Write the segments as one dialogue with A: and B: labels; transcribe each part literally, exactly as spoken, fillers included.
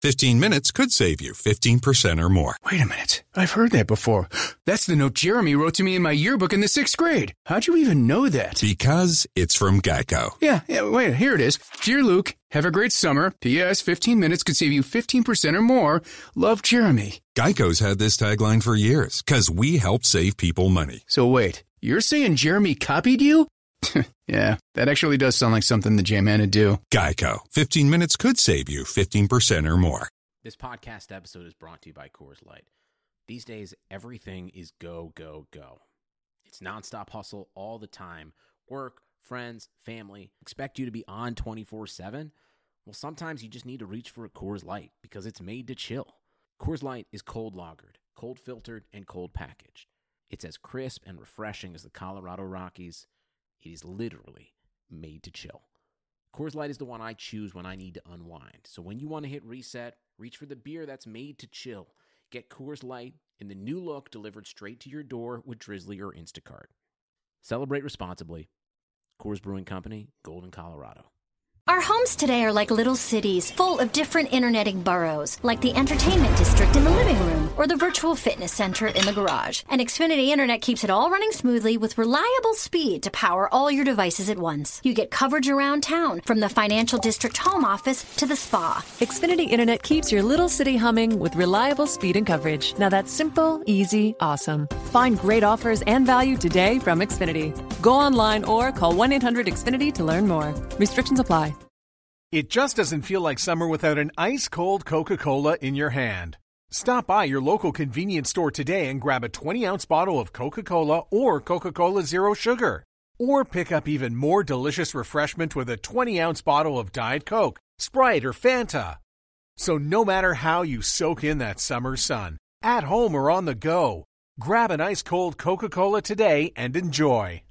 A: fifteen minutes could save you fifteen percent or more.
B: Wait a minute. I've heard that before. That's the note Jeremy wrote to me in my yearbook in the sixth grade. How'd you even know that?
A: Because it's from Geico.
B: Yeah, yeah, wait, here it is. Dear Luke, have a great summer. P S fifteen minutes could save you fifteen percent or more. Love, Jeremy.
A: Geico's had this tagline for years, because we help save people money.
B: So wait, you're saying Jeremy copied you? Yeah, that actually does sound like something the J-Man would do.
A: Geico. fifteen minutes could save you fifteen percent or more.
C: This podcast episode is brought to you by Coors Light. These days, everything is go, go, go. It's nonstop hustle all the time. Work, friends, family, expect you to be on twenty-four seven? Well, sometimes you just need to reach for a Coors Light because it's made to chill. Coors Light is cold lagered, cold filtered, and cold packaged. It's as crisp and refreshing as the Colorado Rockies. It is literally made to chill. Coors Light is the one I choose when I need to unwind. So when you want to hit reset, reach for the beer that's made to chill. Get Coors Light in the new look delivered straight to your door with Drizzly or Instacart. Celebrate responsibly. Coors Brewing Company, Golden, Colorado.
D: Our homes today are like little cities full of different interneting boroughs, like the entertainment district in the living room or the virtual fitness center in the garage. And Xfinity Internet keeps it all running smoothly with reliable speed to power all your devices at once. You get coverage around town, from the financial district home office to the spa.
E: Xfinity Internet keeps your little city humming with reliable speed and coverage. Now that's simple, easy, awesome. Find great offers and value today from Xfinity. Go online or call one eight hundred X Finity to learn more. Restrictions apply.
F: It just doesn't feel like summer without an ice-cold Coca-Cola in your hand. Stop by your local convenience store today and grab a twenty-ounce bottle of Coca-Cola or Coca-Cola Zero Sugar. Or pick up even more delicious refreshment with a twenty-ounce bottle of Diet Coke, Sprite, or Fanta. So no matter how you soak in that summer sun, at home or on the go, grab an ice-cold Coca-Cola today and enjoy.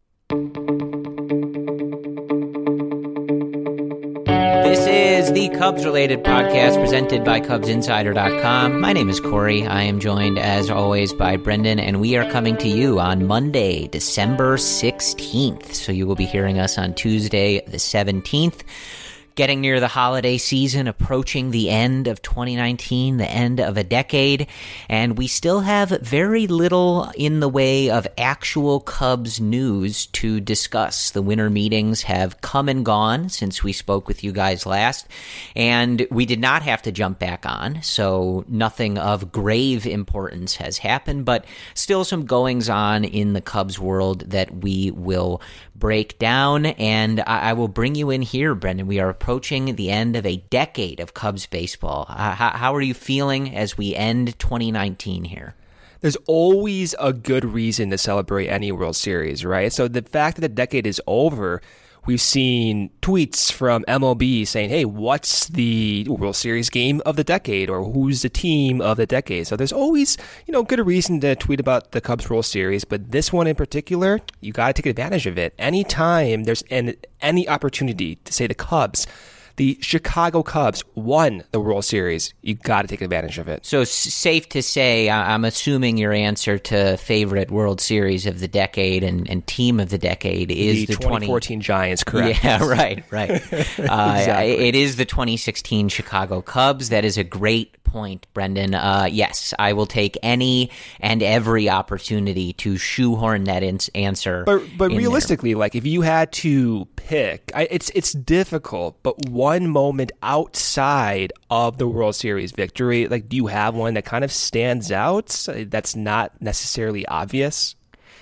G: This is the Cubs-related podcast presented by Cubs Insider dot com. My name is Corey. I am joined, as always, by Brendan, and we are coming to you on Monday, December sixteenth. So you will be hearing us on Tuesday, the seventeenth. Getting near the holiday season, approaching the end of twenty nineteen, the end of a decade, and we still have very little in the way of actual Cubs news to discuss. The winter meetings have come and gone since we spoke with you guys last, and we did not have to jump back on, so nothing of grave importance has happened, but still some goings-on in the Cubs world that we will break down, and I, I will bring you in here, Brendan. We are approaching the end of a decade of Cubs baseball. Uh, how, how are you feeling as we end twenty nineteen here?
H: There's always a good reason to celebrate any World Series, right? So the fact that the decade is over, we've seen tweets from M L B saying, hey, what's the World Series game of the decade, or who's the team of the decade? So there's always, you know, good reason to tweet about the Cubs World Series, but this one in particular, you got to take advantage of it. Anytime there's an, any opportunity to say the Cubs, the Chicago Cubs won the World Series, you got to take advantage of it.
G: So safe to say, I'm assuming your answer to favorite World Series of the decade and, and team of the decade is the,
H: the twenty fourteen
G: twenty
H: Giants, correct?
G: Yeah, right, right. uh,
H: Exactly.
G: It is the twenty sixteen Chicago Cubs. That is a great point, Brendan. Uh, yes, I will take any and every opportunity to shoehorn that in- answer.
H: But but
G: in
H: realistically,
G: there.
H: like if you had to pick, I, it's it's difficult. But one moment outside of the World Series victory, like do you have one that kind of stands out? That's not necessarily obvious.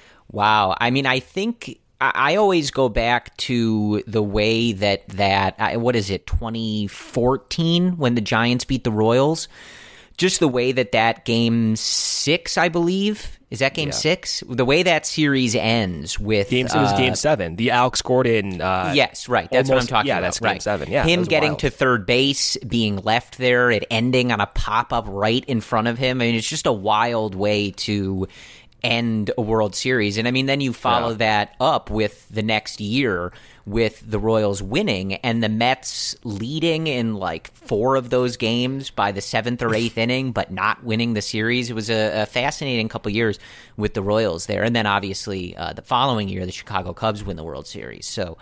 G: Wow. I mean, I think I always go back to the way that that what is it, twenty fourteen when the Giants beat the Royals. Just the way that that game six, I believe, is that game yeah. six? The way that series ends with
H: game. Uh, it was game seven. The Alex Gordon. Uh,
G: yes, right. That's
H: almost,
G: what I'm talking
H: yeah,
G: about.
H: Yeah, that's
G: right.
H: game seven. Yeah,
G: him getting
H: wild.
G: to third base, being left there, it ending on a pop up right in front of him. I mean, it's just a wild way to end a World Series. And I mean, then you follow yeah. that up with the next year with the Royals winning and the Mets leading in like four of those games by the seventh or eighth inning, but not winning the series. It was a, a fascinating couple years with the Royals there. And then obviously uh, the following year, the Chicago Cubs win the World Series. So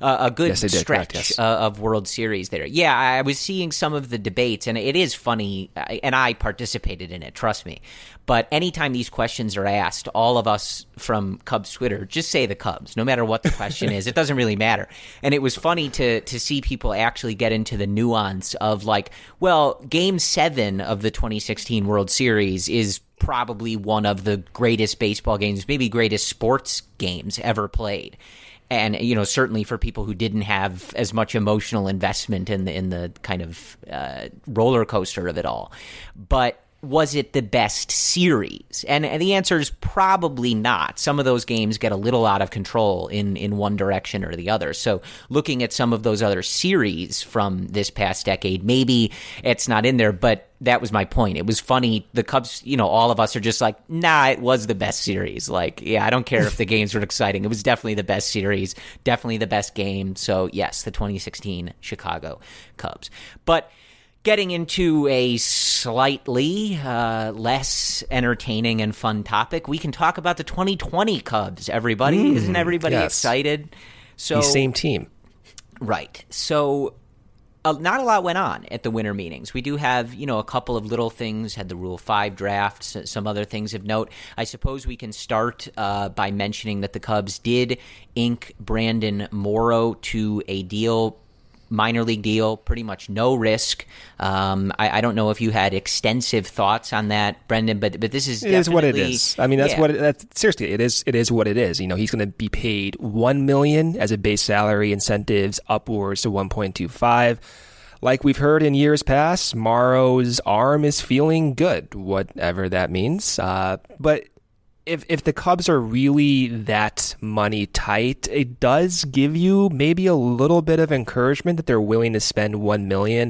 G: uh, a good
H: yes, did,
G: stretch
H: correct, yes.
G: uh, of World Series there. Yeah, I was seeing some of the debates, and it is funny, and I participated in it, trust me. But anytime these questions are asked, all of us from Cubs Twitter just say the Cubs, no matter what the question is. It doesn't really matter. And it was funny to to see people actually get into the nuance of like, well, Game seven of the twenty sixteen World Series is probably one of the greatest baseball games, maybe greatest sports games ever played. And, you know, certainly for people who didn't have as much emotional investment in the, in the kind of uh, roller coaster of it all. But was it the best series? And, and the answer is probably not. Some of those games get a little out of control in, in one direction or the other. So looking at some of those other series from this past decade, maybe it's not in there, but that was my point. It was funny. The Cubs, you know, all of us are just like, nah, it was the best series. Like, yeah, I don't care if the games were exciting. It was definitely the best series, definitely the best game. So yes, the twenty sixteen Chicago Cubs. But getting into a slightly uh, less entertaining and fun topic, we can talk about the twenty twenty Cubs, everybody. Mm, Isn't everybody yes. excited? So
H: the same team.
G: Right. So uh, not a lot went on at the winter meetings. We do have, you know, a couple of little things, had the Rule five drafts, some other things of note. I suppose we can start uh, by mentioning that the Cubs did ink Brandon Morrow to a deal, minor league deal, pretty much no risk. Um, I, I don't know if you had extensive thoughts on that, Brendan, but but this is
H: it
G: definitely,
H: is what it is. I mean, that's
G: yeah.
H: what it, that's seriously it is. It is what it is. You know, he's going to be paid one million as a base salary, incentives upwards to one point two five. Like we've heard in years past, Morrow's arm is feeling good, whatever that means. Uh, but If if the Cubs are really that money tight, it does give you maybe a little bit of encouragement that they're willing to spend one million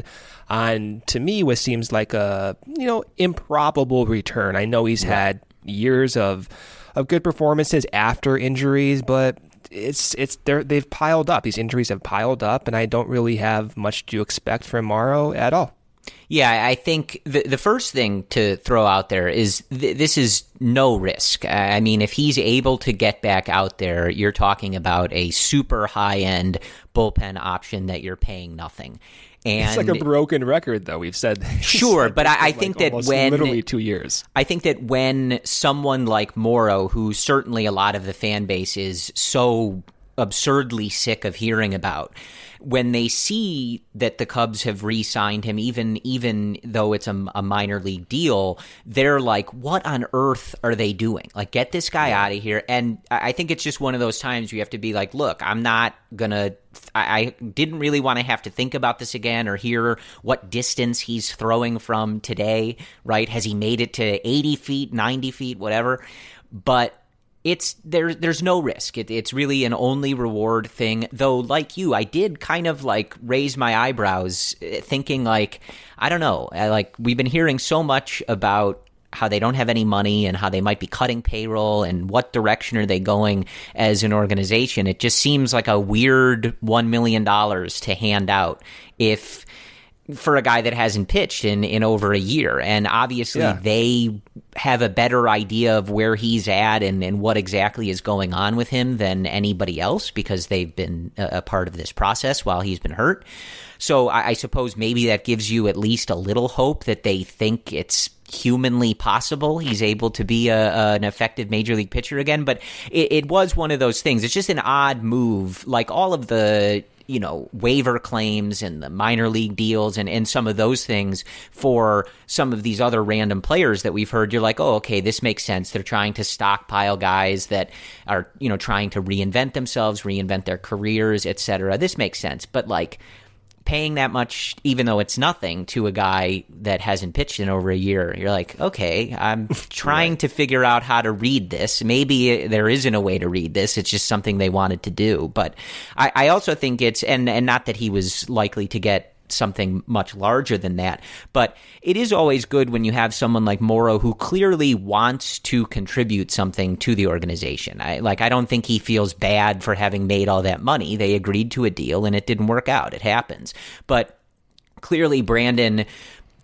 H: on, to me, what seems like a you know improbable return. I know he's had years of of good performances after injuries, but it's it's they're, they've piled up. These injuries have piled up, and I don't really have much to expect from Morrow at all.
G: Yeah, I think the the first thing to throw out there is th- this is no risk. I mean, if he's able to get back out there, you're talking about a super high-end bullpen option that you're paying nothing. And
H: it's like a broken record, though. We've said this.
G: Sure, but I, I think
H: like
G: that when
H: literally two years,
G: I think that when someone like Morrow, who certainly a lot of the fan base is so absurdly sick of hearing about, when they see that the Cubs have re-signed him, even even though it's a, a minor league deal, they're like, what on earth are they doing? Like, get this guy out of here. And I think it's just one of those times you have to be like, look, I'm not going to – I didn't really want to have to think about this again or hear what distance he's throwing from today, right? Has he made it to eighty feet, ninety feet, whatever? But – It's there. There's no risk. It, it's really an only reward thing. Though, like you, I did kind of like raise my eyebrows, thinking like, I don't know. Like we've been hearing so much about how they don't have any money and how they might be cutting payroll and what direction are they going as an organization. It just seems like a weird one million dollars to hand out if. For a guy that hasn't pitched in, in over a year. And obviously yeah. they have a better idea of where he's at and, and what exactly is going on with him than anybody else because they've been a, a part of this process while he's been hurt. So I, I suppose maybe that gives you at least a little hope that they think it's humanly possible he's able to be a, a, an effective major league pitcher again. But it, it was one of those things. It's just an odd move. Like all of the you know, waiver claims and the minor league deals and, and some of those things for some of these other random players that we've heard, you're like, oh, okay, this makes sense. They're trying to stockpile guys that are, you know, trying to reinvent themselves, reinvent their careers, et cetera. This makes sense. But like paying that much, even though it's nothing, to a guy that hasn't pitched in over a year, you're like, okay, I'm trying right. to figure out how to read this. Maybe there isn't a way to read this. It's just something they wanted to do. But I, I also think it's, and, and not that he was likely to get something much larger than that, but it is always good when you have someone like Morrow who clearly wants to contribute something to the organization. I like I don't think he feels bad for having made all that money. They agreed to a deal and it didn't work out. It happens. But clearly Brandon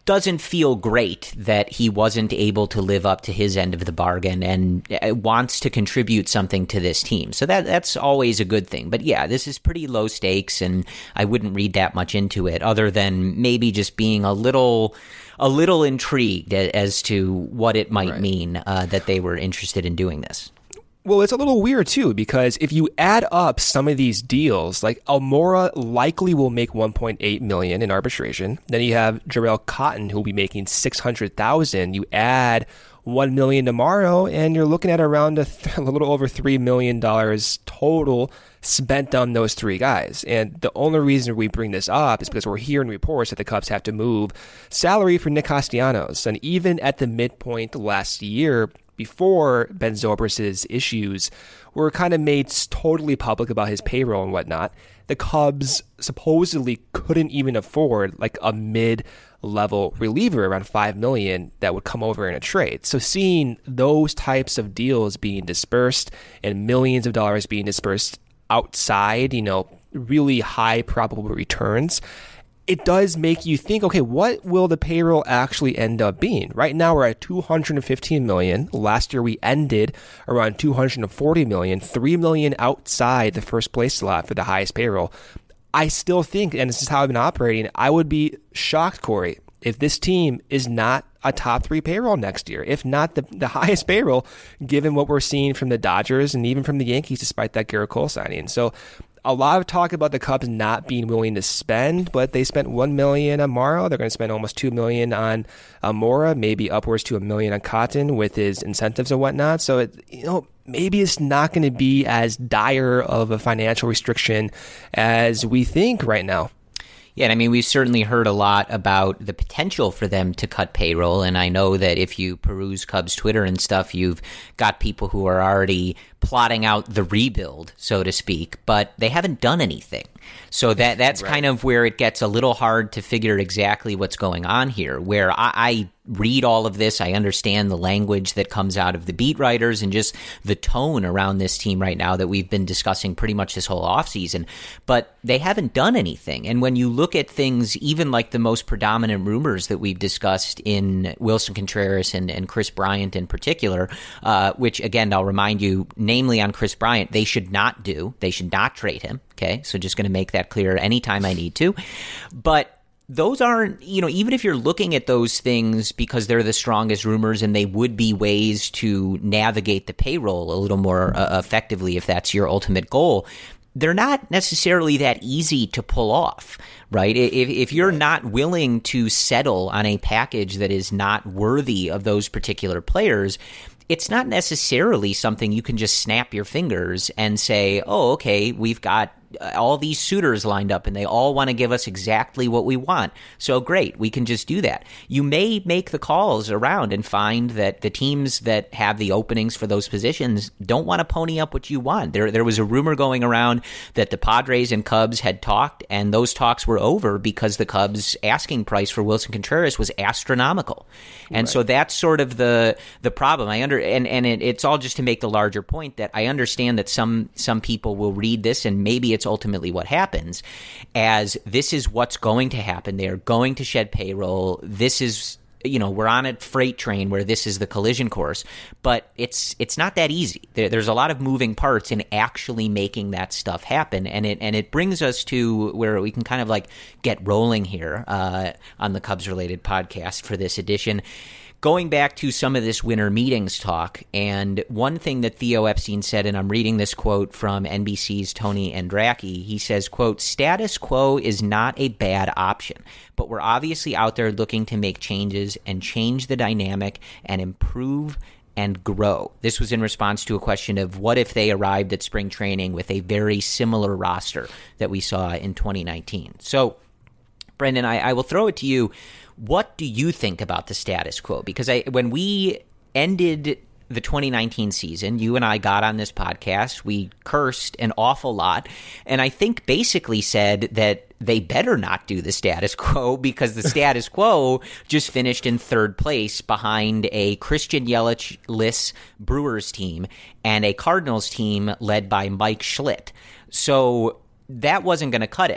G: doesn't feel great that he wasn't able to live up to his end of the bargain and wants to contribute something to this team. So that that's always a good thing. But yeah, this is pretty low stakes, and I wouldn't read that much into it other than maybe just being a little a little intrigued as to what it might right. mean uh, that they were interested in doing this.
H: Well, it's a little weird, too, because if you add up some of these deals, like Almora likely will make one point eight million dollars in arbitration. Then you have Jarrell Cotton, who will be making six hundred thousand dollars. You add one million dollars tomorrow, and you're looking at around a, th- a little over three million dollars total spent on those three guys. And the only reason we bring this up is because we're hearing reports that the Cubs have to move salary for Nick Castellanos. And even at the midpoint last year, before Ben Zobrist's issues were kind of made totally public about his payroll and whatnot, the Cubs supposedly couldn't even afford like a mid-level reliever around five million dollars that would come over in a trade. So seeing those types of deals being dispersed and millions of dollars being dispersed outside, you know, really high probable returns, it does make you think, okay, what will the payroll actually end up being? Right now, we're at two hundred fifteen million dollars. Last year, we ended around two hundred forty million dollars, three million dollars outside the first place slot for the highest payroll. I still think, and this is how I've been operating, I would be shocked, Corey, if this team is not a top three payroll next year, if not the, the highest payroll, given what we're seeing from the Dodgers and even from the Yankees, despite that Garrett Cole signing. So a lot of talk about the Cubs not being willing to spend, but they spent one million dollars on Morrow. They're going to spend almost two million dollars on Almora, maybe upwards to a million on Cotton with his incentives and whatnot. So, it, you know, maybe it's not going to be as dire of a financial restriction as we think right now.
G: Yeah, and I mean, we've certainly heard a lot about the potential for them to cut payroll, and I know that if you peruse Cubs Twitter and stuff, you've got people who are already plotting out the rebuild, so to speak, but they haven't done anything. So that that's right. kind of where it gets a little hard to figure exactly what's going on here, where I, I read all of this, I understand the language that comes out of the beat writers and just the tone around this team right now that we've been discussing pretty much this whole offseason, but they haven't done anything. And when you look at things, even like the most predominant rumors that we've discussed in Wilson Contreras and, and Chris Bryant in particular, uh, which again, I'll remind you, namely on Chris Bryant, they should not do, they should not trade him. Okay, so just going to make that clear anytime I need to. But those aren't, you know, even if you're looking at those things because they're the strongest rumors and they would be ways to navigate the payroll a little more uh, effectively if that's your ultimate goal, they're not necessarily that easy to pull off, right? If, if you're not willing to settle on a package that is not worthy of those particular players, it's not necessarily something you can just snap your fingers and say, oh, okay, we've got all these suitors lined up and they all want to give us exactly what we want. So great, we can just do that. You may make the calls around and find that the teams that have the openings for those positions don't want to pony up what you want. There there was a rumor going around that the Padres and Cubs had talked, and those talks were over because the Cubs' asking price for Wilson Contreras was astronomical. And right. so that's sort of the the problem. I under and, and it, it's all just to make the larger point that I understand that some some people will read this, and maybe it's ultimately what happens, as this is what's going to happen. They are going to shed payroll. This is, you know, we're on a freight train where this is the collision course, but it's it's not that easy. There, there's a lot of moving parts in actually making that stuff happen, and it and it brings us to where we can kind of like get rolling here uh, on the Cubs related podcast for this edition. Going back to some of this winter meetings talk, and one thing that Theo Epstein said, and I'm reading this quote from N B C's Tony Andracki, he says, quote, "Status quo is not a bad option, but we're obviously out there looking to make changes and change the dynamic and improve and grow." This was in response to a question of what if they arrived at spring training with a very similar roster that we saw in twenty nineteen. So, Brendan, I, I will throw it to you. What do you think about the status quo? Because I, when we ended the twenty nineteen season, you and I got on this podcast, we cursed an awful lot, and I think basically said that they better not do the status quo because the status quo just finished in third place behind a Christian Yelich-less Brewers team and a Cardinals team led by Mike Schlitt. So that wasn't going to cut it.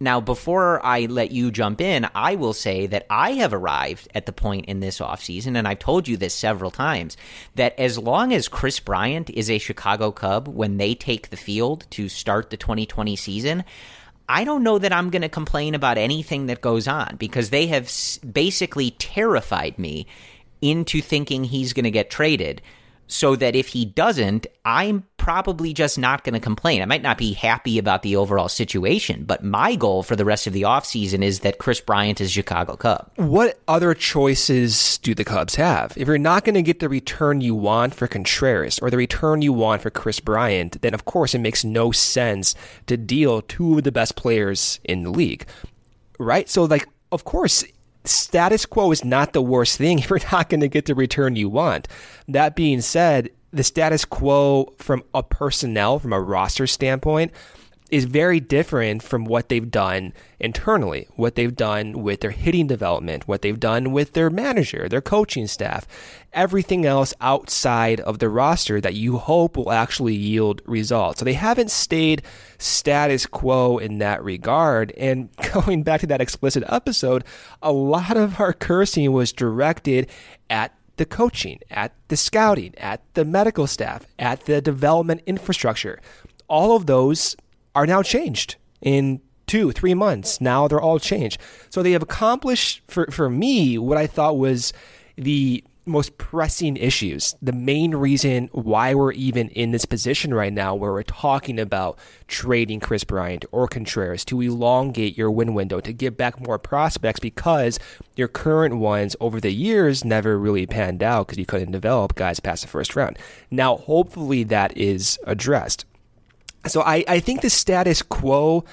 G: Now, before I let you jump in, I will say that I have arrived at the point in this offseason, and I've told you this several times, that as long as Kris Bryant is a Chicago Cub when they take the field to start the twenty twenty season, I don't know that I'm going to complain about anything that goes on, because they have basically terrified me into thinking he's going to get traded, so that if he doesn't, I'm probably just not going to complain. I might not be happy about the overall situation, but my goal for the rest of the offseason is that Kris Bryant is Chicago Cub.
H: What other choices do the Cubs have? If you're not going to get the return you want for Contreras or the return you want for Kris Bryant, then of course it makes no sense to deal two of the best players in the league, right? So, like, of course, status quo is not the worst thing if you're not going to get the return you want. That being said, the status quo from a personnel, from a roster standpoint, is very different from what they've done internally, what they've done with their hitting development, what they've done with their manager, their coaching staff, everything else outside of the roster that you hope will actually yield results. So they haven't stayed status quo in that regard. And going back to that explicit episode, a lot of our cursing was directed at the coaching, at the scouting, at the medical staff, at the development infrastructure. All of those are now changed in two, three months. Now they're all changed. So they have accomplished, for, for me, what I thought was the most pressing issues, the main reason why we're even in this position right now where we're talking about trading Kris Bryant or Contreras to elongate your win window, to give back more prospects, because your current ones over the years never really panned out because you couldn't develop guys past the first round. Now, hopefully that is addressed. So I, I think the status quo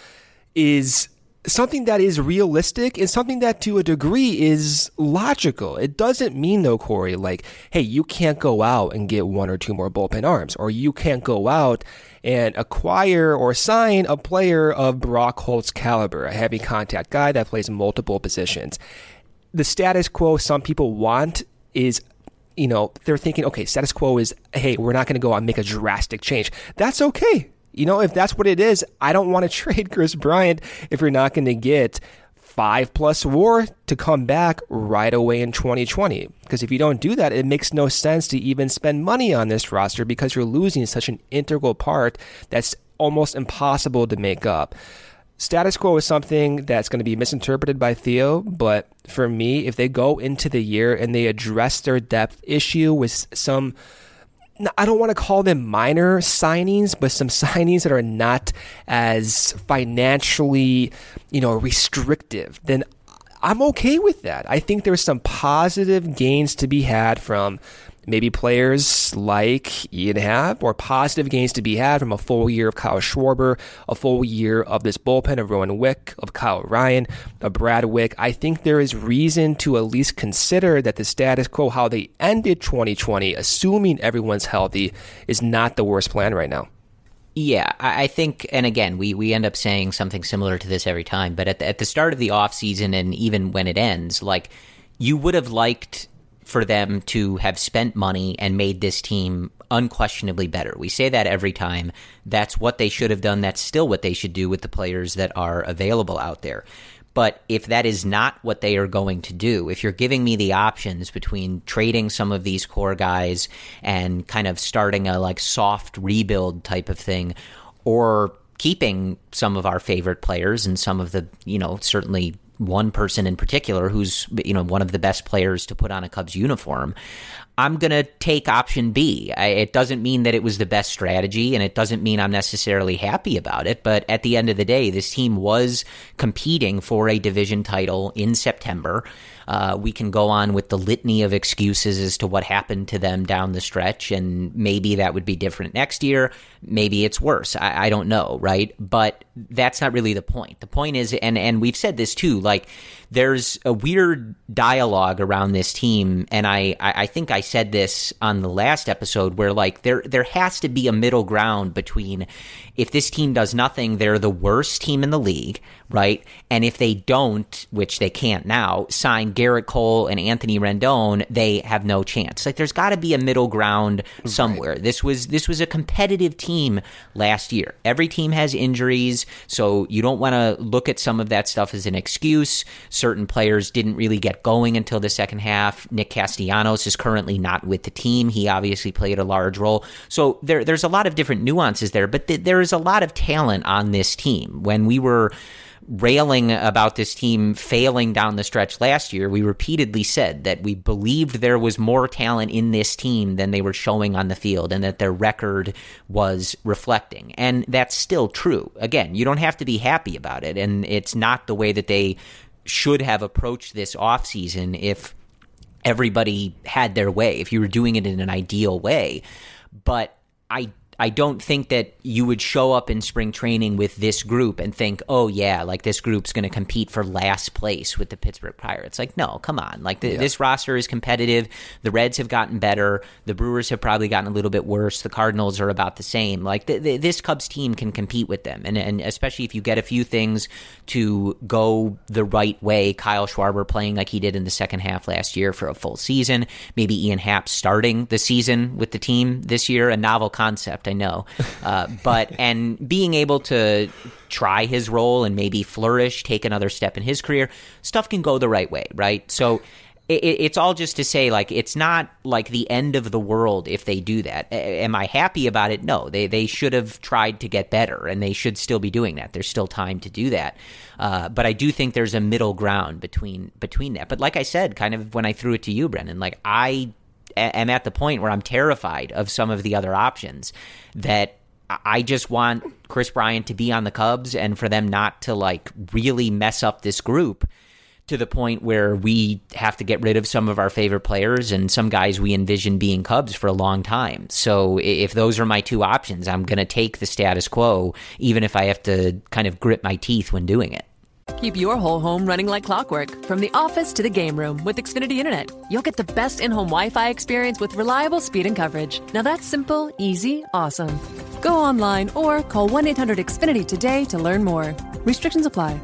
H: is something that is realistic and something that to a degree is logical. It doesn't mean, though, Corey, like, hey, you can't go out and get one or two more bullpen arms, or you can't go out and acquire or sign a player of Brock Holt's caliber, a heavy contact guy that plays multiple positions. The status quo some people want is, you know, they're thinking, okay, status quo is, hey, we're not going to go out and make a drastic change. That's okay. You know, if that's what it is, I don't want to trade Kris Bryant if you're not going to get five plus WAR to come back right away in twenty twenty. Because if you don't do that, it makes no sense to even spend money on this roster because you're losing such an integral part that's almost impossible to make up. Status quo is something that's going to be misinterpreted by Theo, but for me, if they go into the year and they address their depth issue with some, I don't want to call them minor signings, but some signings that are not as financially, you know, restrictive, then I'm okay with that. I think there's some positive gains to be had from maybe players like Ian Happ, or positive gains to be had from a full year of Kyle Schwarber, a full year of this bullpen of Rowan Wick, of Kyle Ryan, of Brad Wick. I think there is reason to at least consider that the status quo, how they ended twenty twenty, assuming everyone's healthy, is not the worst plan right now.
G: Yeah, I think, and again, we, we end up saying something similar to this every time, but at the, at the start of the offseason and even when it ends, like, you would have liked for them to have spent money and made this team unquestionably better. We say that every time. That's what they should have done. That's still what they should do with the players that are available out there. But if that is not what they are going to do, if you're giving me the options between trading some of these core guys and kind of starting a like soft rebuild type of thing, or keeping some of our favorite players and some of the, you know, certainly one person in particular who's, you know, one of the best players to put on a Cubs uniform, I'm going to take option B. I, it doesn't mean that it was the best strategy, and it doesn't mean I'm necessarily happy about it, but at the end of the day, this team was competing for a division title in September. Uh, we can go on with the litany of excuses as to what happened to them down the stretch, and maybe that would be different next year. Maybe it's worse. I, I don't know, right? But that's not really the point. The point is, and, and we've said this too, like, there's a weird dialogue around this team, and I, I think I said this on the last episode, where like there there has to be a middle ground between, if this team does nothing, they're the worst team in the league, right? And if they don't, which they can't now, sign Garrett Cole and Anthony Rendon, they have no chance. Like, there's got to be a middle ground somewhere. Right. This was this was a competitive team last year. Every team has injuries, so you don't want to look at some of that stuff as an excuse. Certain players didn't really get going until the second half. Nick Castellanos is currently not with the team. He obviously played a large role. So there, there's a lot of different nuances there, but th- there is a lot of talent on this team. When we were railing about this team failing down the stretch last year, we repeatedly said that we believed there was more talent in this team than they were showing on the field, and that their record was reflecting. And that's still true. Again, you don't have to be happy about it, and it's not the way that they should have approached this offseason if everybody had their way, if you were doing it in an ideal way. But I I don't think that you would show up in spring training with this group and think, oh, yeah, like this group's going to compete for last place with the Pittsburgh Pirates. Like, no, come on. Like, the, yeah. This roster is competitive. The Reds have gotten better. The Brewers have probably gotten a little bit worse. The Cardinals are about the same. Like, the, the, this Cubs team can compete with them. And, and especially if you get a few things to go the right way, Kyle Schwarber playing like he did in the second half last year for a full season, maybe Ian Happ starting the season with the team this year, a novel concept. I know, uh, but and being able to try his role and maybe flourish, take another step in his career, stuff can go the right way, right? So it, it's all just to say, like, it's not like the end of the world if they do that. A- am I happy about it? No, they they should have tried to get better, and they should still be doing that. There's still time to do that, uh, but I do think there's a middle ground between between that. But like I said, kind of when I threw it to you, Brendan, like I. am at the point where I'm terrified of some of the other options, that I just want Kris Bryant to be on the Cubs and for them not to like really mess up this group to the point where we have to get rid of some of our favorite players and some guys we envision being Cubs for a long time. So if those are my two options, I'm going to take the status quo, even if I have to kind of grit my teeth when doing it.
E: Keep your whole home running like clockwork, from the office to the game room with Xfinity Internet. You'll get the best in-home Wi-Fi experience with reliable speed and coverage. Now that's simple, easy, awesome. Go online or call one eight hundred X Finity today to learn more. Restrictions apply.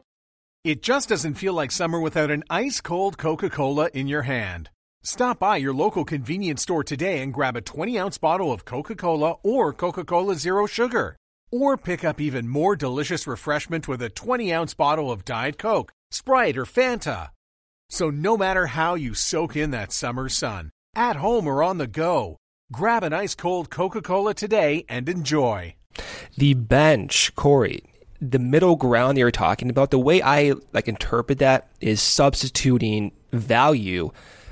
F: It just doesn't feel like summer without an ice-cold Coca-Cola in your hand. Stop by your local convenience store today and grab a twenty-ounce bottle of Coca-Cola or Coca-Cola Zero Sugar. Or pick up even more delicious refreshment with a twenty-ounce bottle of Diet Coke, Sprite, or Fanta. So no matter how you soak in that summer sun, at home or on the go, grab an ice-cold Coca-Cola today and enjoy.
H: The bench, Corey, the middle ground you're talking about, the way I like interpret that is substituting value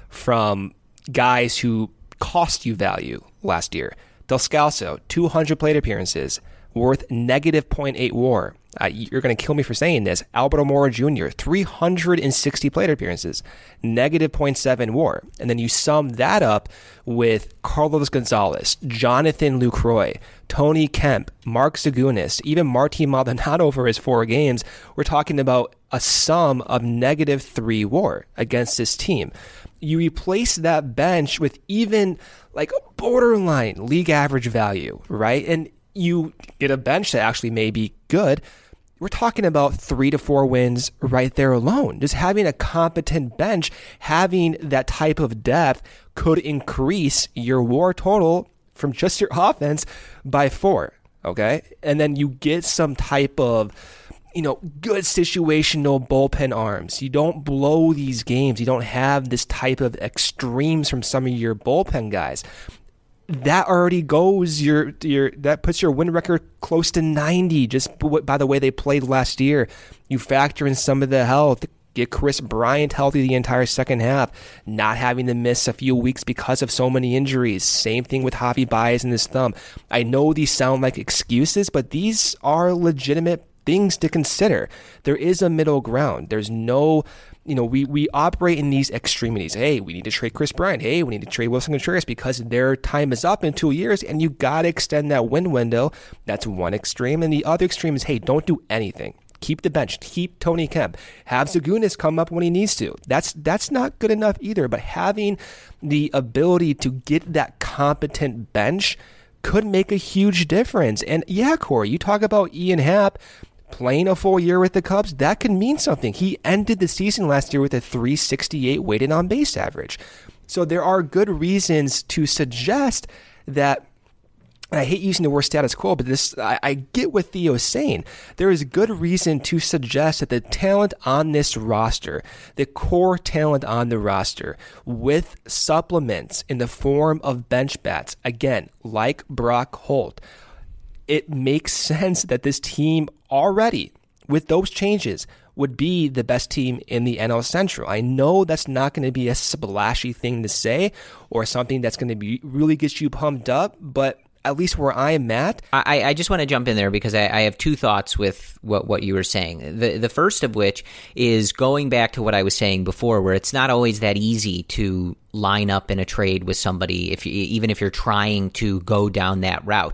H: from guys who cost you value last year. Descalso, two hundred plate appearances, worth negative zero point eight WAR. Uh, you're going to kill me for saying this. Alberto Mora Junior, three hundred sixty plate appearances, negative zero point seven WAR. And then you sum that up with Carlos Gonzalez, Jonathan Lucroy, Tony Kemp, Mark Zagunis, even Martin Maldonado for his four games. We're talking about a sum of negative three WAR against this team. You replace that bench with even like borderline league average value, right? And you get a bench that actually may be good. We're talking about three to four wins right there alone. Just having a competent bench, having that type of depth could increase your WAR total from just your offense by four, okay? And then you get some type of, you know, good situational bullpen arms. You don't blow these games. You don't have this type of extremes from some of your bullpen guys. That already goes your your that puts your win record close to ninety just by the way they played last year. You factor in some of the health, get Kris Bryant healthy the entire second half, not having to miss a few weeks because of so many injuries. Same thing with Javi Baez and his thumb. I know these sound like excuses, but these are legitimate things to consider. There is a middle ground. There's no, you know, we, we operate in these extremities. Hey, we need to trade Kris Bryant. Hey, we need to trade Wilson Contreras because their time is up in two years and you got to extend that win window. That's one extreme. And the other extreme is, hey, don't do anything. Keep the bench. Keep Tony Kemp. Have Zagunis come up when he needs to. That's that's not good enough either. But having the ability to get that competent bench could make a huge difference. And yeah, Corey, you talk about Ian Happ playing a full year with the Cubs. That could mean something. He ended the season last year with a three sixty-eight weighted on base average. So there are good reasons to suggest that. I hate using the word status quo, but this I, I get what Theo's saying. There is good reason to suggest that the talent on this roster, the core talent on the roster, with supplements in the form of bench bats, again, like Brock Holt, it makes sense that this team already, with those changes, would be the best team in the N L Central. I know that's not going to be a splashy thing to say or something that's going to be really get you pumped up, but at least where I am at.
G: I, I just want to jump in there because I, I have two thoughts with what, what you were saying. The the first of which is going back to what I was saying before, where it's not always that easy to line up in a trade with somebody, if you, even if you're trying to go down that route.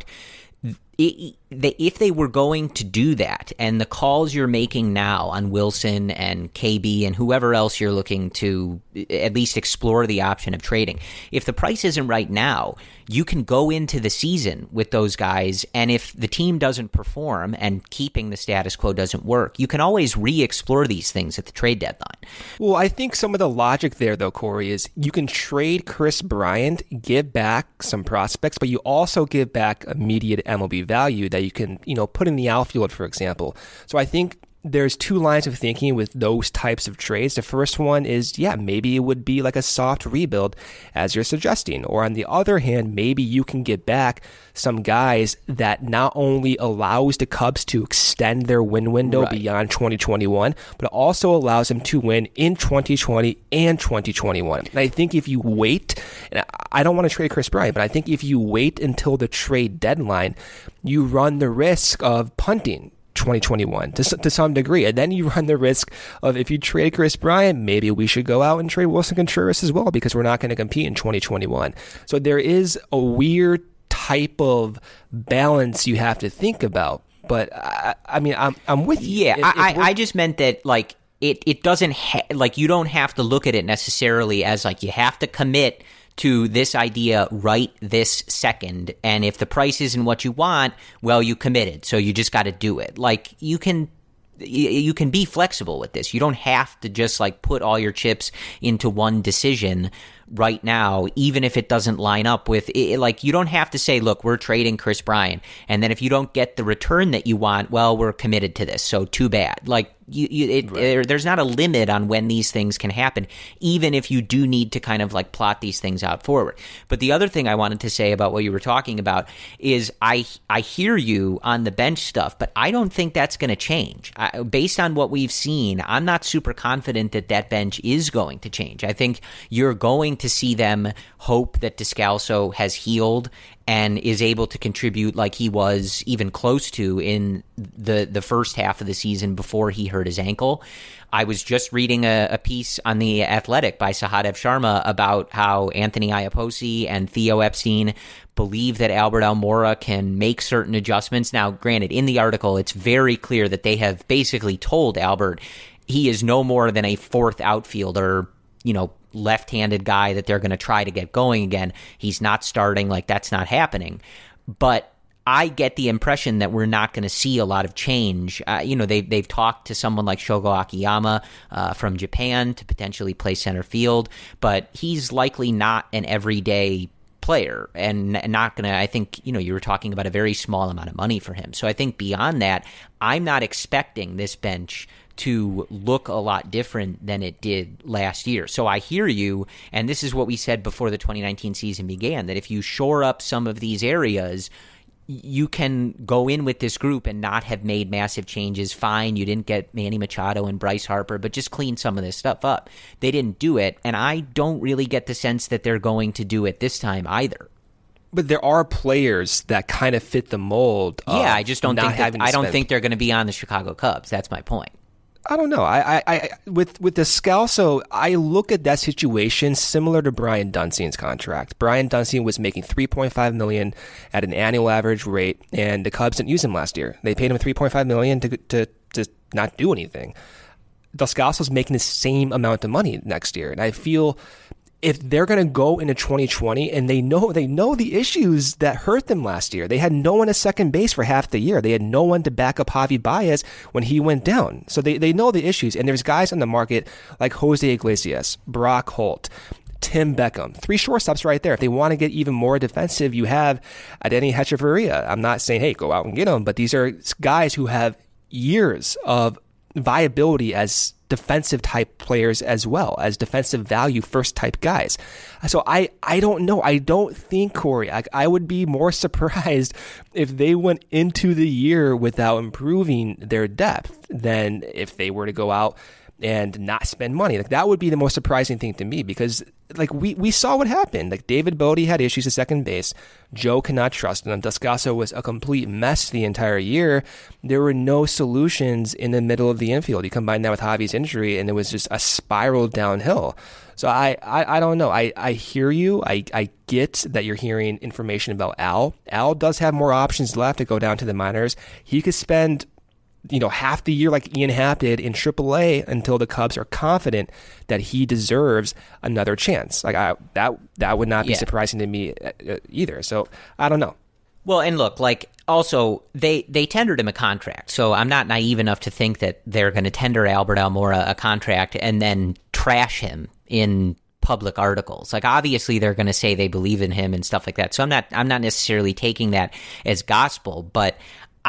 G: It, if they were going to do that, and the calls you're making now on Wilson and K B and whoever else you're looking to at least explore the option of trading, if the price isn't right now, you can go into the season with those guys, and if the team doesn't perform and keeping the status quo doesn't work, you can always re-explore these things at the trade deadline.
H: Well, I think some of the logic there, though, Corey, is you can trade Chris Bryant, give back some prospects, but you also give back immediate M L B value that you can, you know, put in the outfield, for example. So I think there's two lines of thinking with those types of trades. The first one is, yeah, maybe it would be like a soft rebuild, as you're suggesting. Or on the other hand, maybe you can get back some guys that not only allows the Cubs to extend their win window right. beyond twenty twenty-one, but also allows them to win in twenty twenty and twenty twenty-one. And I think if you wait, and I don't want to trade Chris Bryant, but I think if you wait until the trade deadline, you run the risk of punting twenty twenty-one to, to some degree. And then you run the risk of, if you trade Chris Bryant, maybe we should go out and trade Wilson Contreras as well, because we're not going to compete in twenty twenty-one. So there is a weird type of balance you have to think about. But I, I mean, I'm I'm with you.
G: Yeah, if, I, if I just meant that, like, it, it doesn't, ha- like, you don't have to look at it necessarily as, like, you have to commit to this idea right this second, and if the price isn't what you want, well, you committed, so you just got to do it. Like, you can you can be flexible with this. You don't have to just like put all your chips into one decision right now, even if it doesn't line up with it. Like, you don't have to say, look, we're trading Chris Bryant, and then if you don't get the return that you want, well, we're committed to this, so too bad. Like, you, you it, right. there, there's not a limit on when these things can happen, even if you do need to kind of like plot these things out forward. But the other thing I wanted to say about what you were talking about is I I hear you on the bench stuff, but I don't think that's going to change. I, based on what we've seen, I'm not super confident that that bench is going to change. I think you're going to see them hope that Descalso has healed and is able to contribute like he was even close to in the, the first half of the season before he hurt his ankle. I was just reading a, a piece on The Athletic by Sahadev Sharma about how Anthony Iapoce and Theo Epstein believe that Albert Almora can make certain adjustments. Now, granted, in the article, it's very clear that they have basically told Albert he is no more than a fourth outfielder, you know, left-handed guy that they're going to try to get going again. He's not starting, like that's not happening. But I get the impression that we're not going to see a lot of change. Uh, you know, they, they've talked to someone like Shogo Akiyama uh, from Japan to potentially play center field, but he's likely not an everyday player and not going to, I think, you know, you were talking about a very small amount of money for him. So I think beyond that, I'm not expecting this bench to look a lot different than it did last year. So I hear you, and this is what we said before the twenty nineteen season began, that if you shore up some of these areas, you can go in with this group and not have made massive changes. Fine, you didn't get Manny Machado and Bryce Harper, but just clean some of this stuff up. They didn't do it, and I don't really get the sense that they're going to do it this time either.
H: But there are players that kind of fit the mold.
G: Yeah, I just don't think that, I don't think they're going to be on the Chicago Cubs. That's my point.
H: I don't know. I, I, I with with Descalso, I look at that situation similar to Brian Dunstein's contract. Brian Dunstein was making three point five million dollars at an annual average rate, and the Cubs didn't use him last year. They paid him three point five million dollars to to to not do anything. Descalso's making the same amount of money next year. And I feel if they're going to go into twenty twenty and they know they know the issues that hurt them last year. They had no one at second base for half the year. They had no one to back up Javi Baez when he went down. So they, they know the issues. And there's guys on the market like Jose Iglesias, Brock Holt, Tim Beckham, three shortstops right there. If they want to get even more defensive, you have Adeiny Hechavarria. I'm not saying, hey, go out and get them, but these are guys who have years of viability as defensive type players as well, as defensive value first type guys. So I, I don't know. I don't think, Corey, I, I would be more surprised if they went into the year without improving their depth than if they were to go out and not spend money. Like that would be the most surprising thing to me, because like we, we saw what happened. Like David Bodie had issues at second base. Joe cannot trust him. Descalso was a complete mess the entire year. There were no solutions in the middle of the infield. You combine that with Javi's injury, and it was just a spiral downhill. So I, I, I don't know. I, I hear you. I, I get that you're hearing information about Al. Al does have more options left to go down to the minors. He could spend you know, half the year like Ian Happ did in triple A until the Cubs are confident that he deserves another chance. Like I, that, that would not be yeah. surprising to me either. So I don't know.
G: Well, and look, like also they, they tendered him a contract. So I'm not naive enough to think that they're going to tender Albert Almora a contract and then trash him in public articles. Like obviously they're going to say they believe in him and stuff like that. So I'm not, I'm not necessarily taking that as gospel, but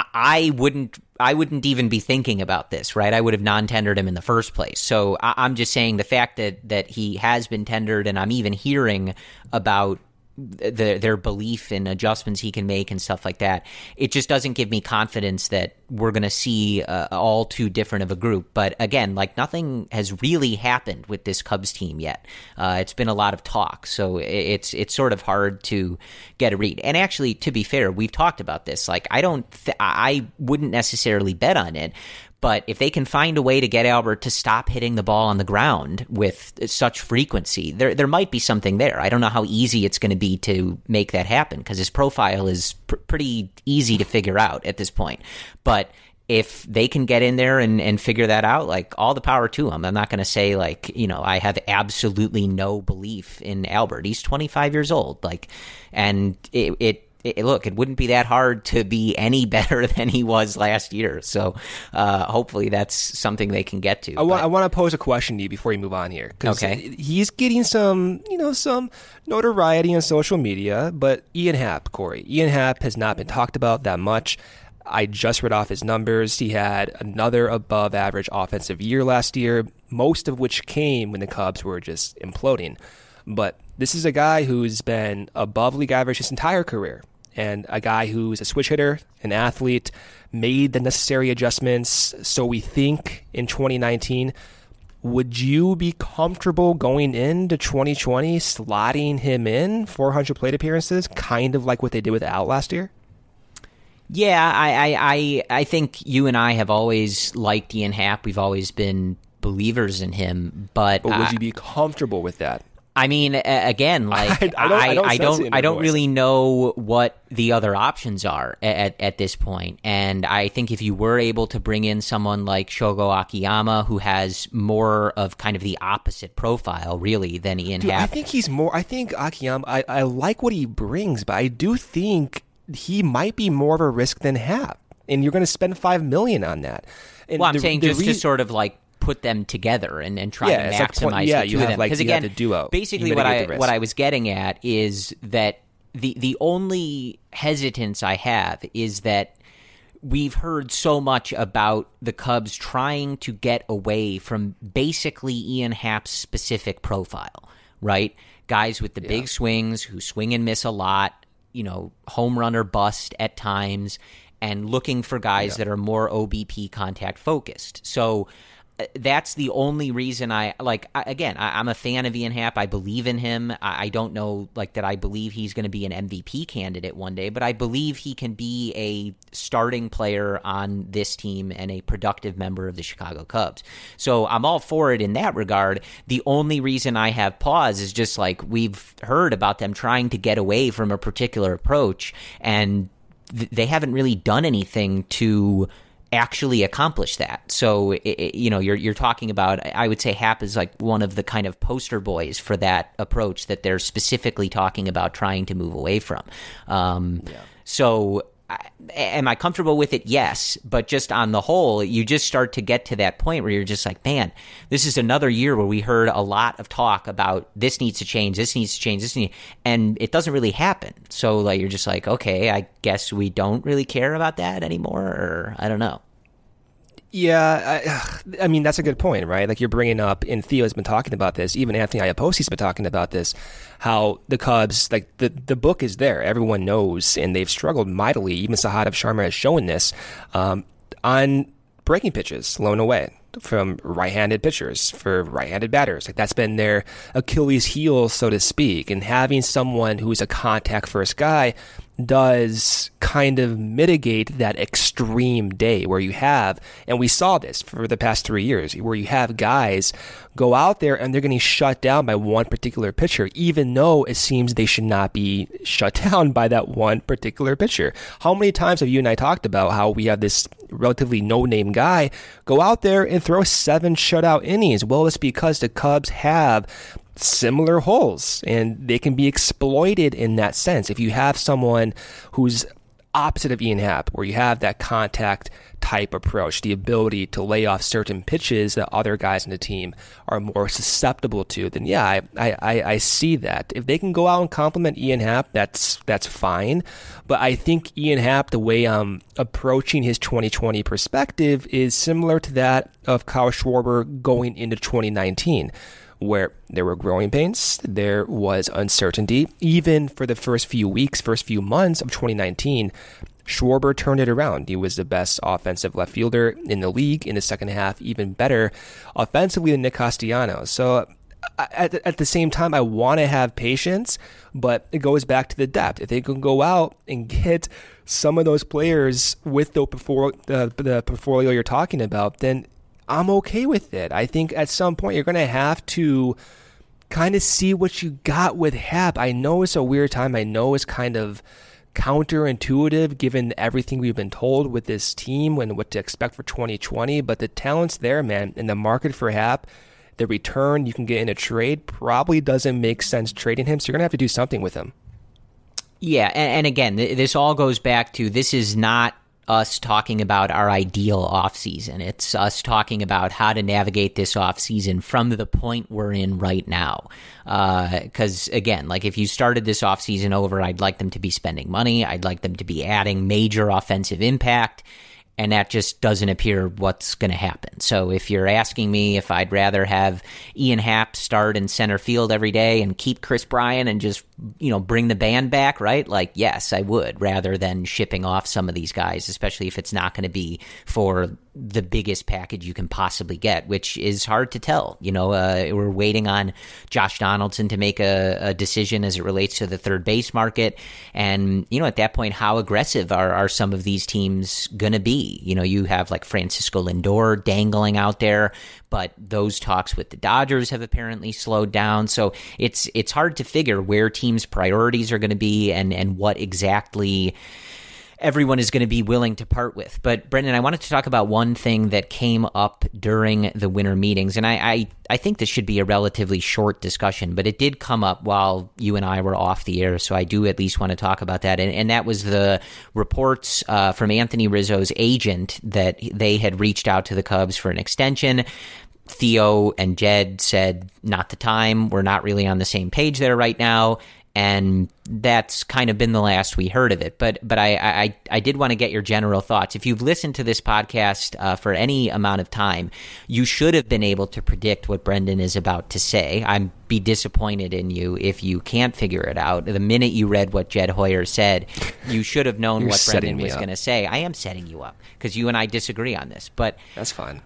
G: I wouldn't I wouldn't even be thinking about this, right? I would have non-tendered him in the first place. So I'm just saying the fact that, that he has been tendered, and I'm even hearing about the, their belief in adjustments he can make and stuff like that, it just doesn't give me confidence that we're going to see uh, all too different of a group. But again, like nothing has really happened with this Cubs team yet. Uh, it's been a lot of talk, so it's it's sort of hard to get a read. And actually, to be fair, we've talked about this. Like I don't, th- I wouldn't necessarily bet on it. But if they can find a way to get Albert to stop hitting the ball on the ground with such frequency, there there might be something there. I don't know how easy it's going to be to make that happen because his profile is pr- pretty easy to figure out at this point. But if they can get in there and, and figure that out, like all the power to them. I'm not going to say like, you know, I have absolutely no belief in Albert. He's twenty-five years old. Like, and it, it It, look, it wouldn't be that hard to be any better than he was last year. So uh, hopefully that's something they can get to.
H: I, wa- I want to pose a question to you before you move on here.
G: Okay.
H: He's getting some, you know, some notoriety on social media, but Ian Happ, Corey. Ian Happ has not been talked about that much. I just read off his numbers. He had another above average offensive year last year, most of which came when the Cubs were just imploding. But this is a guy who's been above league average his entire career, and a guy who's a switch hitter, an athlete, made the necessary adjustments. So we think in twenty nineteen, would you be comfortable going into twenty twenty slotting him in four hundred plate appearances, kind of like what they did with Al last year?
G: Yeah, I, I, I, I think you and I have always liked Ian Happ. We've always been believers in him, but
H: but would
G: uh,
H: you be comfortable with that?
G: I mean, again, like
H: I, I don't, I don't,
G: I don't, I don't
H: voice.
G: really know what the other options are at, at this point. And I think if you were able to bring in someone like Shogo Akiyama, who has more of kind of the opposite profile, really, than Ian
H: Dude,
G: Happ.
H: I think he's more. I think Akiyama. I, I like what he brings, but I do think he might be more of a risk than Happ. And you're going to spend five million on that. And
G: well, I'm
H: the,
G: saying
H: the
G: just
H: re-
G: to sort of like put them together and, and try
H: yeah,
G: to maximize
H: like, yeah,
G: the two
H: you
G: of
H: have
G: them.
H: like
G: Because
H: you
G: again,
H: have the duo.
G: basically
H: You
G: what I
H: the risk.
G: what I was getting at is that the the only hesitance I have is that we've heard so much about the Cubs trying to get away from basically Ian Happ's specific profile, right? Guys with the
H: Yeah.
G: big swings who swing and miss a lot, you know, home run or bust at times, and looking for guys
H: Yeah.
G: that are more O B P contact focused. So uh, that's the only reason I like. I, again, I, I'm a fan of Ian Happ. I believe in him. I, I don't know like that. I believe he's going to be an M V P candidate one day, but I believe he can be a starting player on this team and a productive member of the Chicago Cubs. So I'm all for it in that regard. The only reason I have pause is just like we've heard about them trying to get away from a particular approach, and they haven't really done anything to actually accomplish that. So, it, you know, you're you're talking about, I would say Hap is like one of the kind of poster boys for that approach that they're specifically talking about trying to move away from. Um, yeah. So am I comfortable with it? Yes. But just on the whole, you just start to get to that point where you're just like, man, this is another year where we heard a lot of talk about this needs to change, this needs to change, this needs, and it doesn't really happen. So like, you're just like, okay, I guess we don't really care about that anymore, or I don't know.
H: Yeah, I, I mean, that's a good point, right? Like you're bringing up, and Theo's been talking about this, even Anthony Iaposi's been talking about this, how the Cubs, like the, the book is there. Everyone knows, and they've struggled mightily. Even Sahadev Sharma has shown this um, on breaking pitches, blown away from right-handed pitchers for right-handed batters. Like that's been their Achilles heel, so to speak. And having someone who's a contact-first guy does kind of mitigate that extreme day where you have, and we saw this for the past three years, where you have guys go out there and they're getting shut down by one particular pitcher, even though it seems they should not be shut down by that one particular pitcher. How many times have you and I talked about how we have this relatively no-name guy go out there and throw seven shutout innings? Well, it's because the Cubs have similar holes and they can be exploited in that sense. If you have someone who's opposite of Ian Happ, where you have that contact type approach, the ability to lay off certain pitches that other guys in the team are more susceptible to, then yeah, I, I, I see that. If they can go out and compliment Ian Happ, that's that's fine. But I think Ian Happ, the way I'm approaching his twenty twenty perspective is similar to that of Kyle Schwarber going into twenty nineteen. Where there were growing pains, there was uncertainty. Even for the first few weeks, first few months of twenty nineteen, Schwarber turned it around. He was the best offensive left fielder in the league in the second half, even better offensively than Nick Castellanos. So at, at the same time, I want to have patience, but it goes back to the depth. If they can go out and get some of those players with the, the, the portfolio you're talking about, then I'm okay with it. I think at some point you're going to have to kind of see what you got with Happ. I know it's a weird time. I know it's kind of counterintuitive given everything we've been told with this team and what to expect for twenty twenty, but the talent's there, man. And the market for Happ, the return you can get in a trade probably doesn't make sense trading him, so you're going to have to do something with him.
G: Yeah, and, and again, this all goes back to this is not us talking about our ideal offseason. It's us talking about how to navigate this offseason from the point we're in right now. Because, uh, again, like if you started this offseason over, I'd like them to be spending money. I'd like them to be adding major offensive impact. And that just doesn't appear what's going to happen. So if you're asking me if I'd rather have Ian Happ start in center field every day and keep Chris Bryant and just, you know, bring the band back, right? Like, yes, I would, rather than shipping off some of these guys, especially if it's not going to be for the biggest package you can possibly get, which is hard to tell. You know, uh, we're waiting on Josh Donaldson to make a, a decision as it relates to the third base market. And, you know, at that point, how aggressive are, are some of these teams going to be? You know, you have like Francisco Lindor dangling out there, but those talks with the Dodgers have apparently slowed down. So it's it's hard to figure where teams' priorities are going to be and, and what exactly everyone is going to be willing to part with. But Brendan, I wanted to talk about one thing that came up during the winter meetings, and I, I, I think this should be a relatively short discussion, but it did come up while you and I were off the air, so I do at least want to talk about that. And, and that was the reports uh, from Anthony Rizzo's agent that they had reached out to the Cubs for an extension. Theo and Jed said, not the time. We're not really on the same page there right now. And that's kind of been the last we heard of it. But but I I, I did want to get your general thoughts. If you've listened to this podcast uh, for any amount of time, you should have been able to predict what Brendan is about to say. I'd be disappointed in you if you can't figure it out. The minute you read what Jed Hoyer said, you should have known what Brendan was going to say. I am setting you up because you and I disagree on this. But
H: that's fine.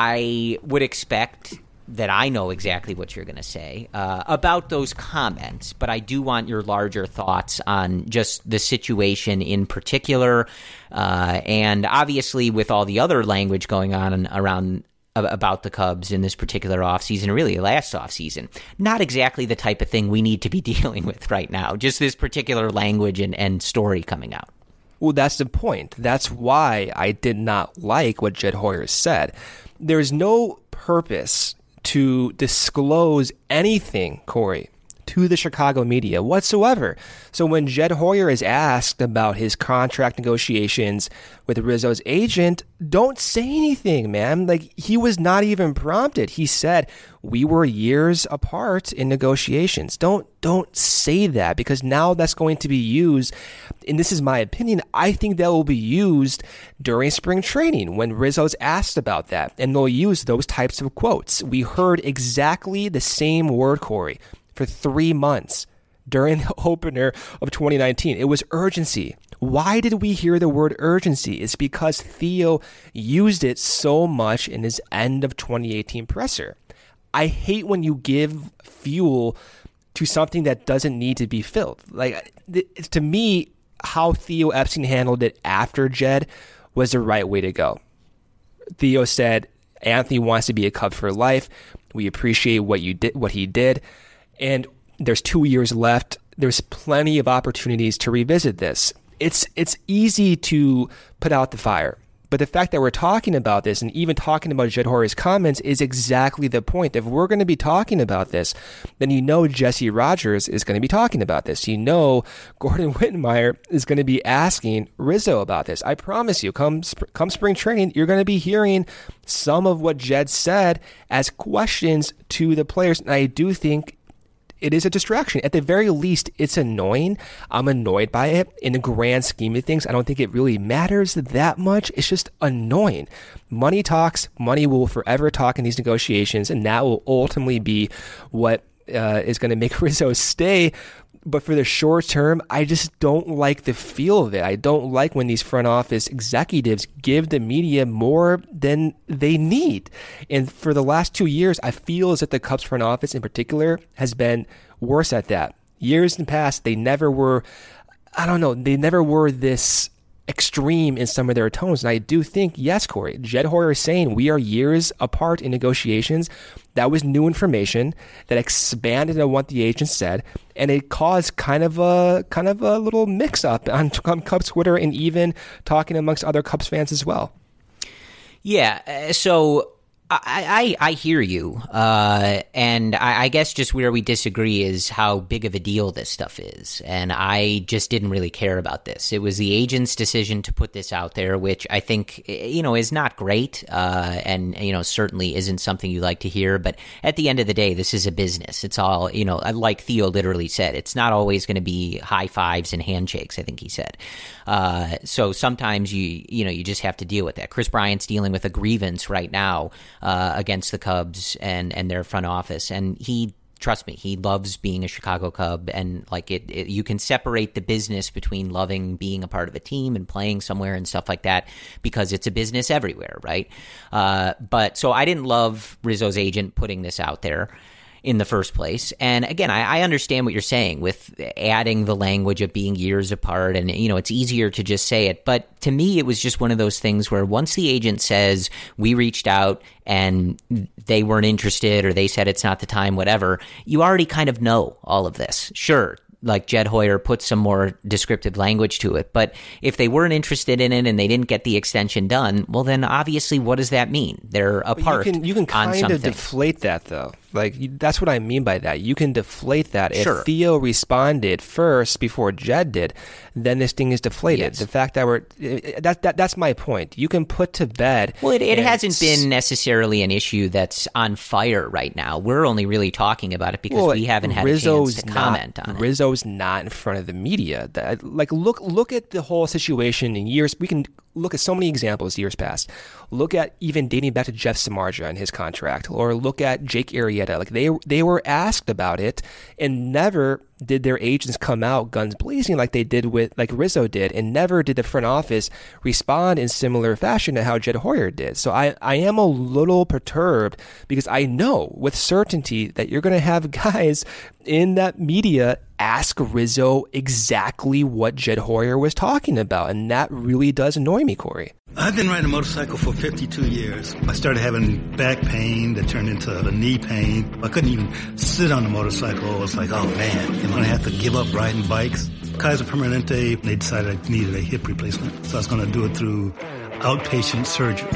G: I would expect that I know exactly what you're going to say uh, about those comments, but I do want your larger thoughts on just the situation in particular, uh, and obviously with all the other language going on around about the Cubs in this particular offseason, really last offseason. Not exactly the type of thing we need to be dealing with right now, just this particular language and, and story coming out.
H: Well, that's the point. That's why I did not like what Jed Hoyer said. There's no purpose to disclose anything, Corey, to the Chicago media whatsoever. So when Jed Hoyer is asked about his contract negotiations with Rizzo's agent, don't say anything, man. Like, he was not even prompted. He said, we were years apart in negotiations. Don't don't say that, because now that's going to be used, and this is my opinion, I think that will be used during spring training when Rizzo's asked about that, and they'll use those types of quotes. We heard exactly the same word, Corey, for three months during the opener of twenty nineteen. It was urgency. Why did we hear the word urgency? It's because Theo used it so much in his end of twenty eighteen presser. I hate when you give fuel to something that doesn't need to be filled. Like, to me, how Theo Epstein handled it after Jed was the right way to go. Theo said, Anthony wants to be a Cub for life. We appreciate what you did, what he did. And there's two years left. There's plenty of opportunities to revisit this. It's it's easy to put out the fire. But the fact that we're talking about this and even talking about Jed Hoyer's comments is exactly the point. If we're going to be talking about this, then you know Jesse Rogers is going to be talking about this. You know Gordon Wittenmyer is going to be asking Rizzo about this. I promise you, come come spring training, you're going to be hearing some of what Jed said as questions to the players. And I do think it is a distraction. At the very least, it's annoying. I'm annoyed by it. In the grand scheme of things, I don't think it really matters that much. It's just annoying. Money talks. Money will forever talk in these negotiations, and that will ultimately be what uh, is going to make Rizzo stay. But for the short term, I just don't like the feel of it. I don't like when these front office executives give the media more than they need. And for the last two years, I feel as if the Cubs front office in particular has been worse at that. Years in the past, they never were, I don't know, they never were this extreme in some of their tones. And I do think, yes, Corey, Jed Hoyer is saying we are years apart in negotiations. That was new information that expanded on what the agent said, and it caused kind of a kind of a little mix-up on, on Cubs Twitter and even talking amongst other Cubs fans as well.
G: Yeah, so I, I, I hear you, uh, and I, I guess just where we disagree is how big of a deal this stuff is, and I just didn't really care about this. It was the agent's decision to put this out there, which I think, you know, is not great, uh, and, you know, certainly isn't something you like to hear, but at the end of the day, this is a business. It's all, you know, like Theo literally said, it's not always going to be high fives and handshakes, I think he said. Uh, so sometimes you, you know, you just have to deal with that. Chris Bryant's dealing with a grievance right now, Uh, against the Cubs and, and their front office. And he, trust me, he loves being a Chicago Cub. And like it, it, you can separate the business between loving being a part of a team and playing somewhere and stuff like that, because it's a business everywhere, right? Uh, but so I didn't love Rizzo's agent putting this out there in the first place. And again, I, I understand what you're saying with adding the language of being years apart, and, you know, it's easier to just say it. But to me, it was just one of those things where once the agent says, we reached out and they weren't interested, or they said it's not the time, whatever, you already kind of know all of this. Sure, like Jed Hoyer put some more descriptive language to it. But if they weren't interested in it and they didn't get the extension done, well, then obviously what does that mean? They're apart.
H: You can, you can kind of deflate that, though. Like, that's what I mean by that. You can deflate that.
G: Sure.
H: If Theo responded first before Jed did, then this thing is deflated.
G: Yes.
H: The fact that we're that, that that's my point. You can put to bed.
G: Well, it, it hasn't been necessarily an issue that's on fire right now. We're only really talking about it because
H: well,
G: we haven't had
H: Rizzo's
G: a chance to
H: not,
G: comment on it.
H: Rizzo's not in front of the media. That, like, look look at the whole situation in years. We can look at so many examples years past. Look at even dating back to Jeff Samardzija and his contract, or look at Jake Arrieta. Like, they they were asked about it, and never did their agents come out guns blazing like they did with like Rizzo did, and never did the front office respond in similar fashion to how Jed Hoyer did. So I, I am a little perturbed, because I know with certainty that you're going to have guys in that media ask Rizzo exactly what Jed Hoyer was talking about, and that really does annoy me, Corey.
I: I've been riding a motorcycle for fifty-two years. I started having back pain that turned into a knee pain. I couldn't even sit on the motorcycle. I was like, oh man, am I going to have to give up riding bikes? Kaiser Permanente, they decided I needed a hip replacement. So I was going to do it through outpatient surgery.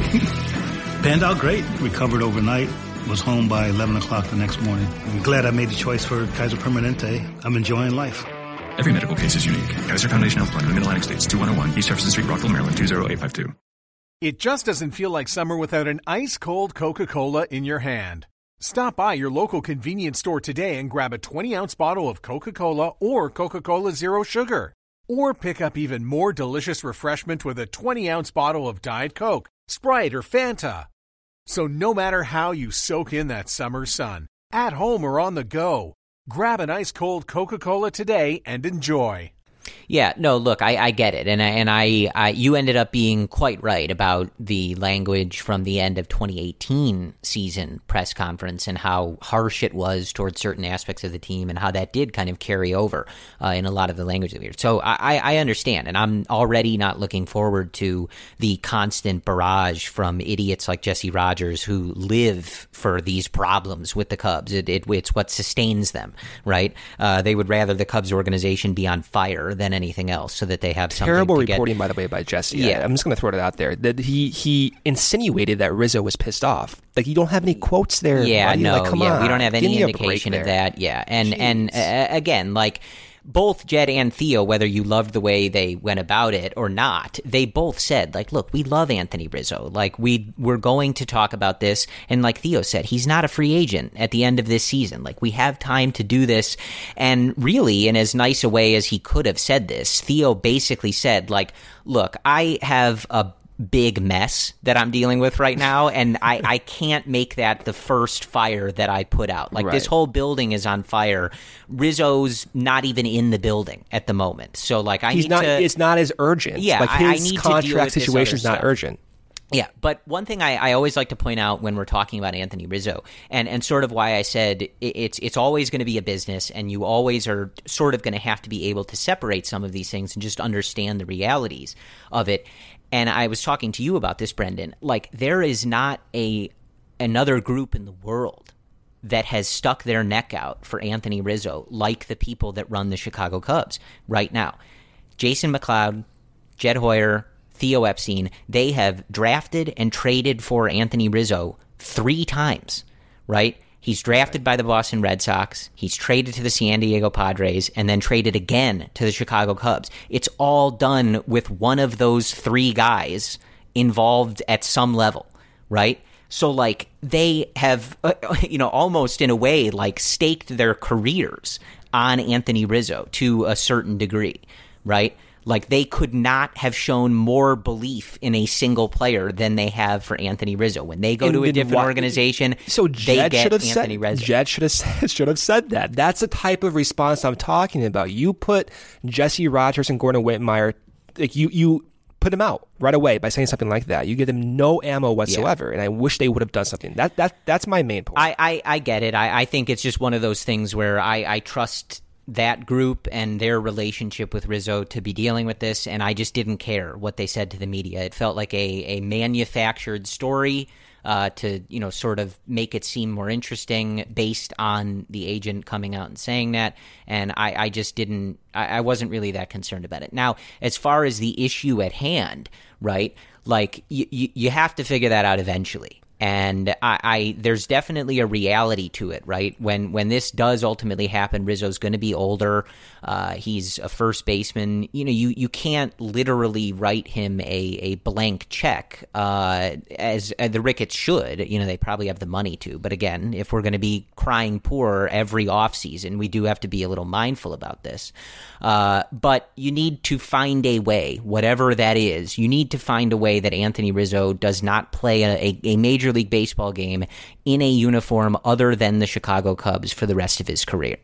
I: Panned out great. Recovered overnight. Was home by eleven o'clock the next morning. I'm glad I made the choice for Kaiser Permanente. I'm enjoying life.
J: Every medical case is unique. Kaiser Foundation Health Plan in the Mid-Atlantic States, two one oh one East Jefferson Street, Rockville, Maryland, two zero eight five two.
F: It just doesn't feel like summer without an ice-cold Coca-Cola in your hand. Stop by your local convenience store today and grab a twenty-ounce bottle of Coca-Cola or Coca-Cola Zero Sugar. Or pick up even more delicious refreshment with a twenty-ounce bottle of Diet Coke, Sprite, or Fanta. So no matter how you soak in that summer sun, at home or on the go, grab an ice-cold Coca-Cola today and enjoy.
G: Yeah, no, look, I, I get it, and I, and I, I, you ended up being quite right about the language from the end of twenty eighteen season press conference and how harsh it was towards certain aspects of the team, and how that did kind of carry over uh, in a lot of the language that we heard. So I, I understand, and I'm already not looking forward to the constant barrage from idiots like Jesse Rogers who live for these problems with the Cubs. It, it it's what sustains them, right? Uh, they would rather the Cubs organization be on fire than anything else, so that they have something
H: terrible
G: to
H: reporting,
G: get.
H: By the way, by Jesse.
G: Yeah,
H: I, I'm just going to throw it out there that he he insinuated that Rizzo was pissed off. Like, you don't have any quotes there.
G: Yeah,
H: buddy.
G: no,
H: like, come
G: yeah,
H: on.
G: we don't have
H: Give
G: any
H: me a
G: indication
H: break
G: of
H: there.
G: that. Yeah, and
H: Jeez.
G: and uh, again, like, both Jed and Theo, whether you loved the way they went about it or not, they both said, like, look, we love Anthony Rizzo. Like, we, we're going to talk about this. And like Theo said, he's not a free agent at the end of this season. Like, we have time to do this. And really, in as nice a way as he could have said this, Theo basically said, like, look, I have a big mess that I'm dealing with right now, and I, I can't make that the first fire that I put out. Like, right. This whole building is on fire. Rizzo's not even in the building at the moment. So, like, I
H: He's
G: need
H: not,
G: to...
H: It's not as urgent.
G: Yeah,
H: like, his
G: I, I need
H: contract
G: to
H: situation is not
G: stuff.
H: urgent.
G: Yeah, but one thing I, I always like to point out when we're talking about Anthony Rizzo, and, and sort of why I said it, it's it's always going to be a business, and you always are sort of going to have to be able to separate some of these things and just understand the realities of it. And I was talking to you about this, Brendan. Like, there is not a another group in the world that has stuck their neck out for Anthony Rizzo like the people that run the Chicago Cubs right now. Jason McLeod, Jed Hoyer, Theo Epstein, they have drafted and traded for Anthony Rizzo three times, right? He's drafted by the Boston Red Sox, he's traded to the San Diego Padres, and then traded again to the Chicago Cubs. It's all done with one of those three guys involved at some level, right? So, like, they have, uh, you know, almost in a way, like, staked their careers on Anthony Rizzo to a certain degree, right? Like, they could not have shown more belief in a single player than they have for Anthony Rizzo. When they go
H: and
G: to a different
H: why,
G: organization,
H: so
G: they
H: Jed
G: get
H: should have
G: Anthony
H: said,
G: Rizzo.
H: Jed should have said, should have said that. That's the type of response I'm talking about. You put Jesse Rogers and Gordon Whitmire, like, you you put them out right away by saying something like that. You give them no ammo whatsoever, yeah. And I wish they would have done something. That that that's my main point.
G: I I, I get it. I, I think it's just one of those things where I, I trust that group and their relationship with Rizzo to be dealing with this, and I just didn't care what they said to the media. It felt like a, a manufactured story uh, to, you know, sort of make it seem more interesting based on the agent coming out and saying that, and I, I just didn't, I, I wasn't really that concerned about it. Now, as far as the issue at hand, right, like, you, you, you have to figure that out eventually. And I, I, there's definitely a reality to it, right? When when this does ultimately happen, Rizzo's going to be older. Uh, he's a first baseman. You know, you, you can't literally write him a, a blank check, uh, as, as the Ricketts should. You know, they probably have the money to. But again, if we're going to be crying poor every offseason, we do have to be a little mindful about this. Uh, but you need to find a way, whatever that is, you need to find a way that Anthony Rizzo does not play a, a, a major League Baseball game in a uniform other than the Chicago Cubs for the rest of his career.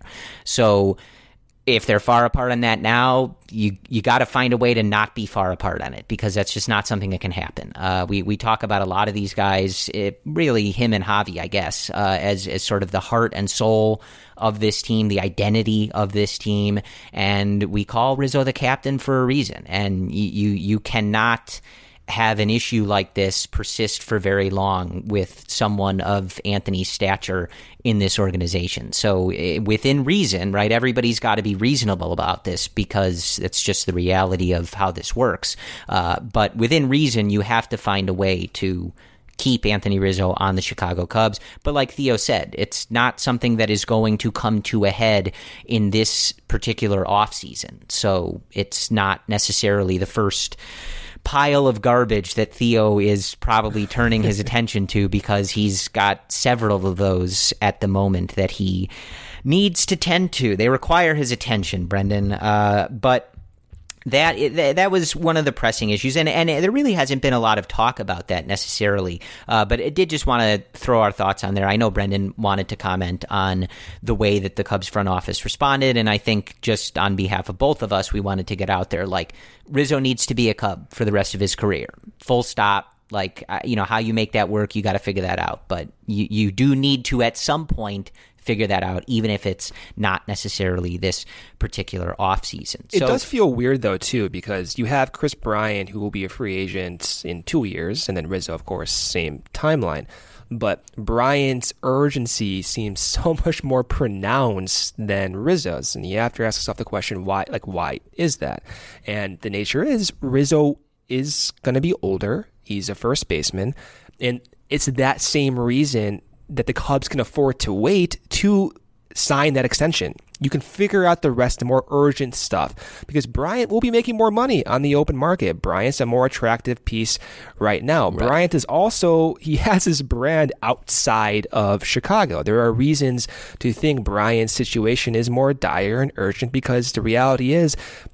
G: So if they're far apart on that now, you you got to find a way to not be far apart on it, because that's just not something that can happen. Uh, we we talk about a lot of these guys, it, really him and Javi, I guess, uh, as as sort of the heart and soul of this team, the identity of this team, and we call Rizzo the captain for a reason. And you you, you cannot have an issue like this persist for very long with someone of Anthony's stature in this organization. So uh, within reason, right, everybody's got to be reasonable about this because it's just the reality of how this works. Uh, but within reason, you have to find a way to keep Anthony Rizzo on the Chicago Cubs. But like Theo said, it's not something that is going to come to a head in this particular offseason. So it's not necessarily the first pile of garbage that Theo is probably turning his attention to, because he's got several of those at the moment that he needs to tend to. They require his attention, Brendan. Uh, but That that was one of the pressing issues, and, and there really hasn't been a lot of talk about that necessarily, uh, but it did just want to throw our thoughts on there. I know Brendan wanted to comment on the way that the Cubs front office responded, and I think just on behalf of both of us, we wanted to get out there, like, Rizzo needs to be a Cub for the rest of his career, full stop. Like, you know, how you make that work, you got to figure that out, but you, you do need to at some point figure that out, even if it's not necessarily this particular offseason.
H: It so, does feel weird, though, too, because you have Kris Bryant, who will be a free agent in two years, and then Rizzo, of course, same timeline. But Bryant's urgency seems so much more pronounced than Rizzo's, and you have to ask yourself the question, why? Like, why is that? And the nature is, Rizzo is going to be older. He's a first baseman, and it's that same reason that the Cubs can afford to wait to sign that extension. You can figure out the rest, the more urgent stuff, because Bryant will be making more money on the open market. Bryant's a more attractive piece right now. Right. Bryant is also, he has his brand outside of Chicago. There are reasons to think Bryant's situation is more dire and urgent, because the reality is,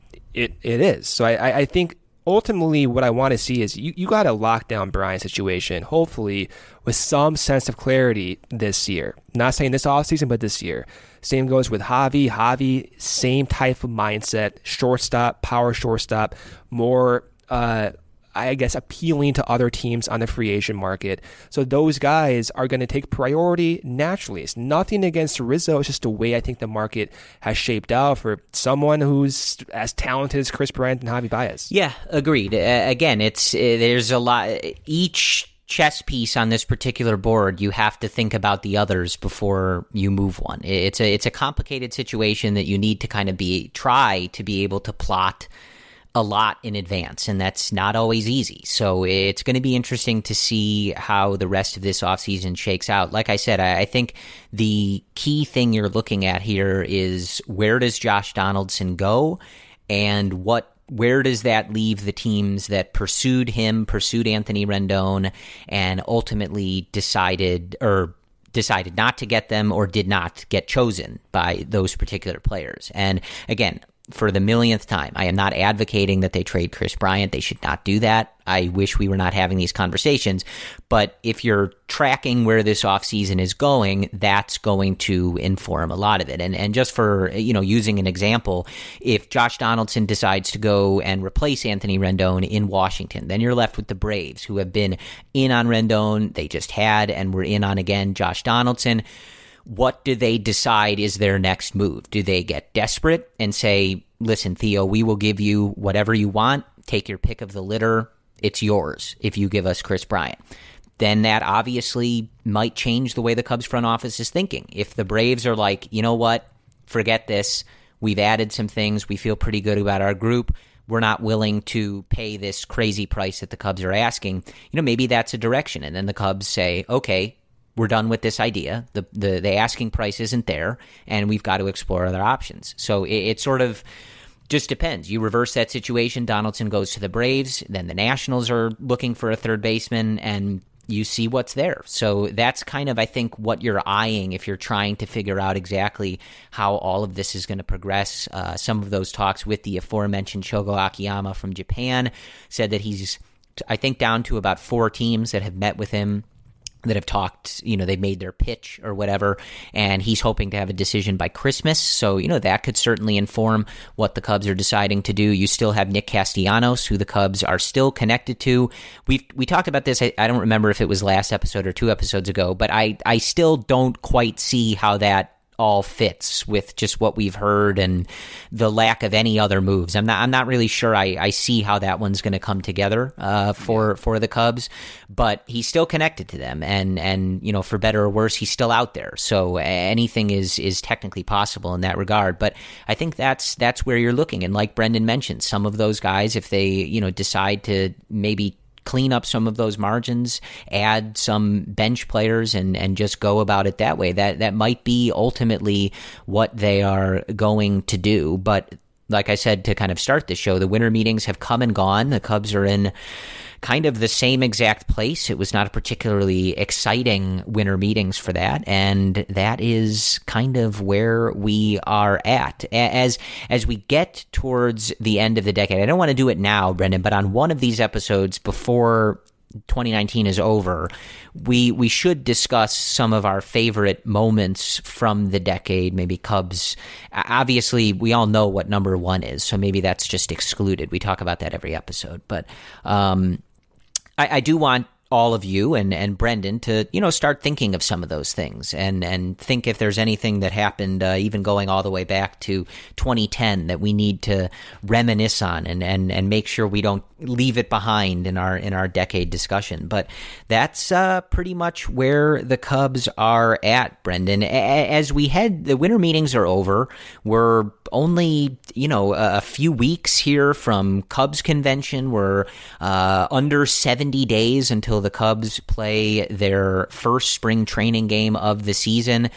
H: it it is. So I, I think ultimately, what I want to see is you, you got to lock down Bryant's situation, hopefully with some sense of clarity this year. Not saying this offseason, but this year. Same goes with Javi. Javi, same type of mindset, shortstop, power shortstop, more, uh, I guess, appealing to other teams on the free agent market. So those guys are going to take priority naturally. It's nothing against Rizzo. It's just the way I think the market has shaped out for someone who's as talented as Kris Bryant and Javi Baez.
G: Yeah, agreed. Uh, again, it's uh, there's a lot. Each chess piece on this particular board, you have to think about the others before you move one. It's a it's a complicated situation that you need to kind of be try to be able to plot a lot in advance, and that's not always easy. So it's going to be interesting to see how the rest of this offseason shakes out. Like I said, I, I think the key thing you're looking at here is, where does Josh Donaldson go, and what where does that leave the teams that pursued him, pursued Anthony Rendon, and ultimately decided or decided not to get them, or did not get chosen by those particular players. And again, for the millionth time, I am not advocating that they trade Kris Bryant. They should not do that. I wish we were not having these conversations. But if you're tracking where this offseason is going, that's going to inform a lot of it. And and just for, you know, using an example, if Josh Donaldson decides to go and replace Anthony Rendon in Washington, then you're left with the Braves, who have been in on Rendon. They just had and were in on again Josh Donaldson. What do they decide is their next move? Do they get desperate and say, listen, Theo, we will give you whatever you want. Take your pick of the litter. It's yours if you give us Kris Bryant. Then that obviously might change the way the Cubs front office is thinking. If the Braves are like, you know what, forget this. We've added some things. We feel pretty good about our group. We're not willing to pay this crazy price that the Cubs are asking. You know, maybe that's a direction. And then the Cubs say, okay, we're done with this idea. The, the the asking price isn't there, and we've got to explore other options. So it, it sort of just depends. You reverse that situation, Donaldson goes to the Braves, then the Nationals are looking for a third baseman, and you see what's there. So that's kind of, I think, what you're eyeing if you're trying to figure out exactly how all of this is going to progress. Uh, some of those talks with the aforementioned Shogo Akiyama from Japan said that he's, I think, down to about four teams that have met with him, that have talked, you know, they've made their pitch or whatever, and he's hoping to have a decision by Christmas. So, you know, that could certainly inform what the Cubs are deciding to do. You still have Nick Castellanos, who the Cubs are still connected to. We we talked about this, I, I don't remember if it was last episode or two episodes ago, but I, I still don't quite see how that all fits with just what we've heard and the lack of any other moves. I'm not I'm not really sure I, I see how that one's going to come together uh, for yeah. for the Cubs, but he's still connected to them, and and you know, for better or worse, he's still out there. So anything is is technically possible in that regard. But I think that's that's where you're looking, and like Brendan mentioned, some of those guys, if they you know decide to maybe clean up some of those margins, add some bench players, and, and just go about it that way. That that might be ultimately what they are going to do. But like I said, to kind of start the show, the winter meetings have come and gone. The Cubs are in kind of the same exact place. It was not a particularly exciting winter meetings for that, and that is kind of where we are at. As as we get towards the end of the decade, I don't want to do it now, Brendan, but on one of these episodes before twenty nineteen is over, we we should discuss some of our favorite moments from the decade, maybe Cubs. Obviously, we all know what number one is, so maybe that's just excluded. We talk about that every episode. But um, I, I do want all of you and, and Brendan to, you know, start thinking of some of those things and, and think if there's anything that happened, uh, even going all the way back to twenty ten, that we need to reminisce on and, and, and make sure we don't leave it behind in our in our decade discussion. But that's uh, pretty much where the Cubs are at, Brendan. A- as we head, the winter meetings are over. We're only, you know, a, a few weeks here from Cubs convention. We're uh, under seventy days until the Cubs play their first spring training game of the season.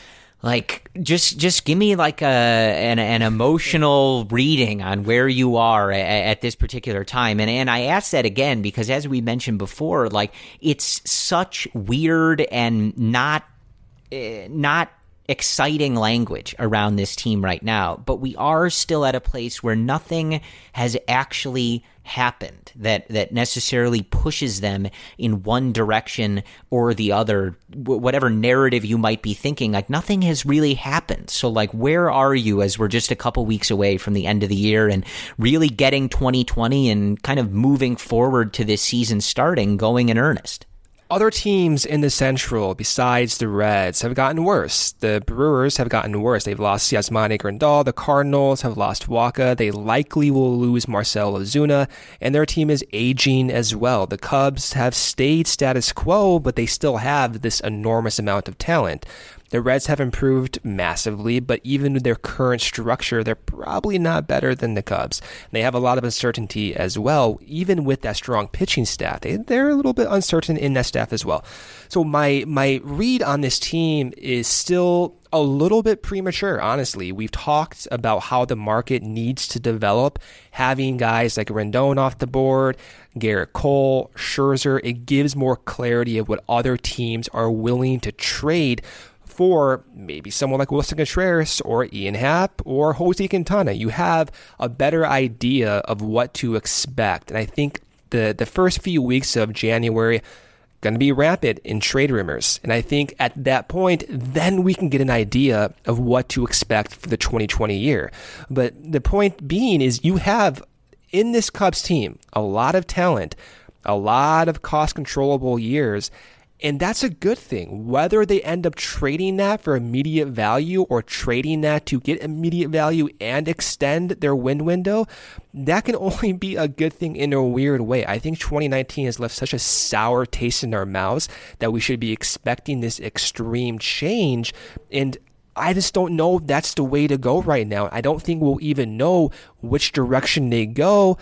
G: Like, just just give me like a an, an emotional reading on where you are at, at this particular time. And and I ask that again because, as we mentioned before, like, it's such weird and not uh, not exciting language around this team right now. But we are still at a place where nothing has actually happened that that necessarily pushes them in one direction or the other. Whatever narrative you might be thinking, like, nothing has really happened. So, like, where are you as we're just a couple weeks away from the end of the year and really getting twenty twenty and kind of moving forward to this season starting, going in earnest?
H: Other teams in the Central, besides the Reds, have gotten worse. The Brewers have gotten worse. They've lost Yasmani Grandal. The Cardinals have lost Wacha. They likely will lose Marcell Ozuna, and their team is aging as well. The Cubs have stayed status quo, but they still have this enormous amount of talent. The Reds have improved massively, but even with their current structure, they're probably not better than the Cubs. They have a lot of uncertainty as well, even with that strong pitching staff. They, they're a little bit uncertain in that staff as well. So my my read on this team is still a little bit premature, honestly. We've talked about how the market needs to develop. Having guys like Rendon off the board, Garrett Cole, Scherzer, it gives more clarity of what other teams are willing to trade for maybe someone like Wilson Contreras or Ian Happ or Jose Quintana. You have a better idea of what to expect. And I think the, the first few weeks of January going to be rampant in trade rumors. And I think at that point, then we can get an idea of what to expect for the twenty twenty year. But the point being is you have in this Cubs team a lot of talent, a lot of cost controllable years. And that's a good thing. Whether they end up trading that for immediate value or trading that to get immediate value and extend their win window, that can only be a good thing in a weird way. I think twenty nineteen has left such a sour taste in our mouths that we should be expecting this extreme change. And I just don't know if that's the way to go right now. I don't think we'll even know which direction they go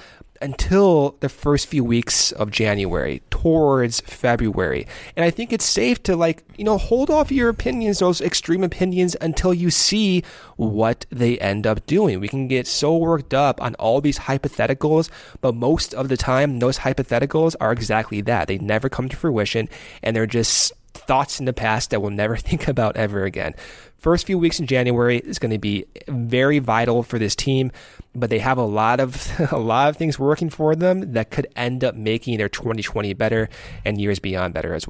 H: until the first few weeks of January, towards February. And I think it's safe to, like, you know, hold off your opinions, those extreme opinions, until you see what they end up doing. We can get so worked up on all these hypotheticals, but most of the time, those hypotheticals are exactly that. They never come to fruition, and they're just thoughts in the past that we'll never think about ever again. First few weeks in January is going to be very vital for this team, but they have a lot of a lot of things working for them that could end up making their twenty twenty better and years beyond better as well.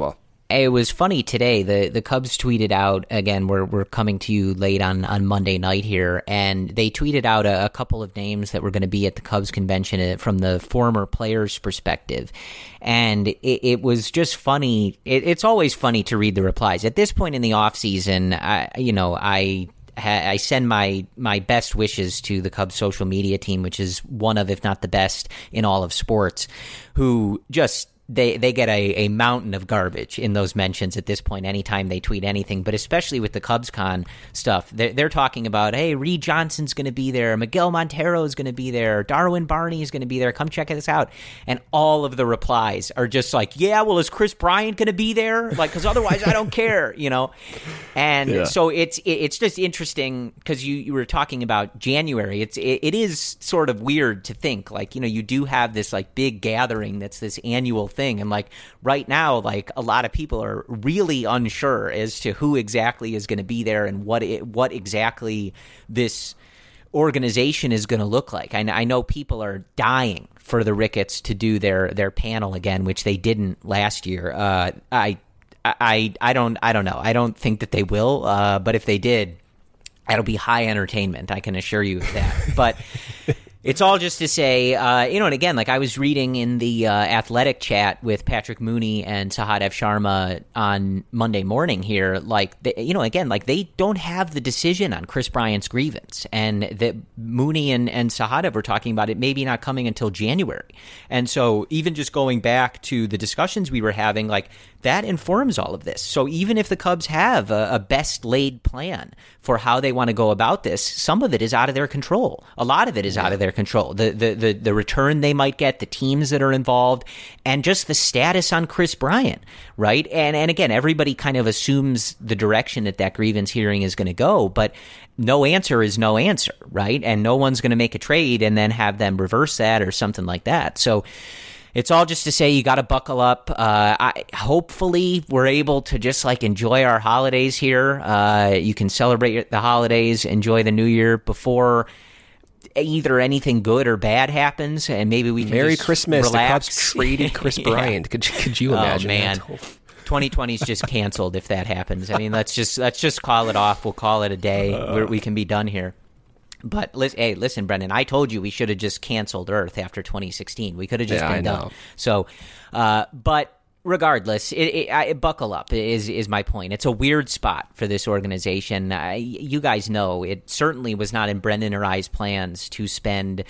G: It was funny today. The the Cubs tweeted out, again, we're we're coming to you late on, on Monday night here, and they tweeted out a, a couple of names that were going to be at the Cubs convention from the former players' perspective. And it, it was just funny. It, it's always funny to read the replies. At this point in the offseason, I, you know, I... I send my, my best wishes to the Cubs social media team, which is one of, if not the best in all of sports, who just, they, they get a, a mountain of garbage in those mentions at this point, anytime they tweet anything, but especially with the CubsCon stuff. They're, they're talking about, hey, Reed Johnson's going to be there, Miguel Montero is going to be there, Darwin Barney is going to be there, come check this out. And all of the replies are just like, yeah, well, is Chris Bryant going to be there? Like, because otherwise I don't care, you know? And yeah. so it's it, it's just interesting because you, you were talking about January. It's it, it is sort of weird to think, like, you know, you do have this like big gathering that's this annual thing. And like right now, like a lot of people are really unsure as to who exactly is going to be there and what it, what exactly this organization is going to look like. I, I know people are dying for the Ricketts to do their their panel again, which they didn't last year. Uh, I. I, I don't I don't know. I don't think that they will, uh, but if they did, that'll be high entertainment. I can assure you of that. But it's all just to say, uh, you know, and again, like I was reading in the uh, athletic chat with Patrick Mooney and Sahadev Sharma on Monday morning here, like, they, you know, again, like they don't have the decision on Chris Bryant's grievance. And that Mooney and, and Sahadev were talking about it maybe not coming until January. And so even just going back to the discussions we were having, like that informs all of this. So even if the Cubs have a, a best laid plan for how they want to go about this, some of it is out of their control. A lot of it is yeah. out of their control. The, the the the return they might get, the teams that are involved, and just the status on Chris Bryant, right? And and again, everybody kind of assumes the direction that that grievance hearing is going to go, but no answer is no answer, right? And no one's going to make a trade and then have them reverse that or something like that. So it's all just to say you got to buckle up. Uh, I, hopefully, we're able to just like enjoy our holidays here. Uh, you can celebrate the holidays, enjoy the new year before either anything good or bad happens, and maybe we can
H: Merry
G: just
H: Christmas.
G: relax.
H: The Cubs traded Chris Bryant. yeah. Could could you imagine?
G: Oh man, twenty twenty is just canceled if that happens. I mean, let's just let's just call it off. We'll call it a day. Uh, We're, we can be done here. But hey, listen, Brendan, I told you we should have just canceled Earth after twenty sixteen. We could have just
H: yeah,
G: been
H: I
G: done.
H: know.
G: So, uh, but regardless, it, it, I, buckle up is is my point. It's a weird spot for this organization. I, you guys know it certainly was not in Brendan or I's plans to spend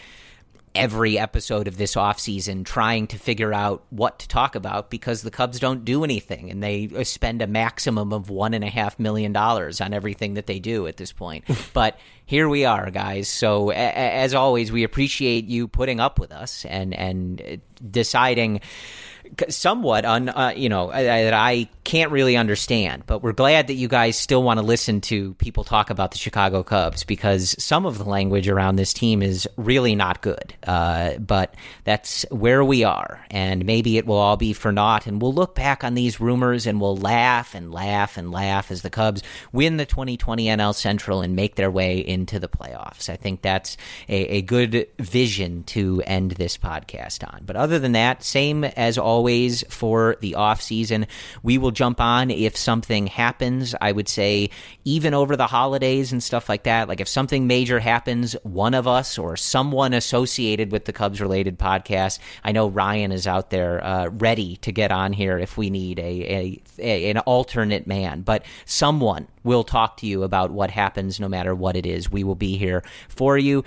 G: every episode of this offseason trying to figure out what to talk about because the Cubs don't do anything and they spend a maximum of one and a half million dollars on everything that they do at this point. But here we are, guys. So a- as always, we appreciate you putting up with us and, and deciding somewhat on, uh, you know, that I can't really understand, but we're glad that you guys still want to listen to people talk about the Chicago Cubs because some of the language around this team is really not good. Uh, but that's where we are, and maybe it will all be for naught, and we'll look back on these rumors and we'll laugh and laugh and laugh as the Cubs win the twenty twenty N L Central and make their way into the playoffs. I think that's a, a good vision to end this podcast on. But other than that, same as always. Always for the off season, we will jump on if something happens. I would say even over the holidays and stuff like that, like if something major happens, one of us or someone associated with the Cubs related podcast, I know Ryan is out there uh, ready to get on here if we need a, a, a an alternate man, but someone will talk to you about what happens no matter what it is. We will be here for you,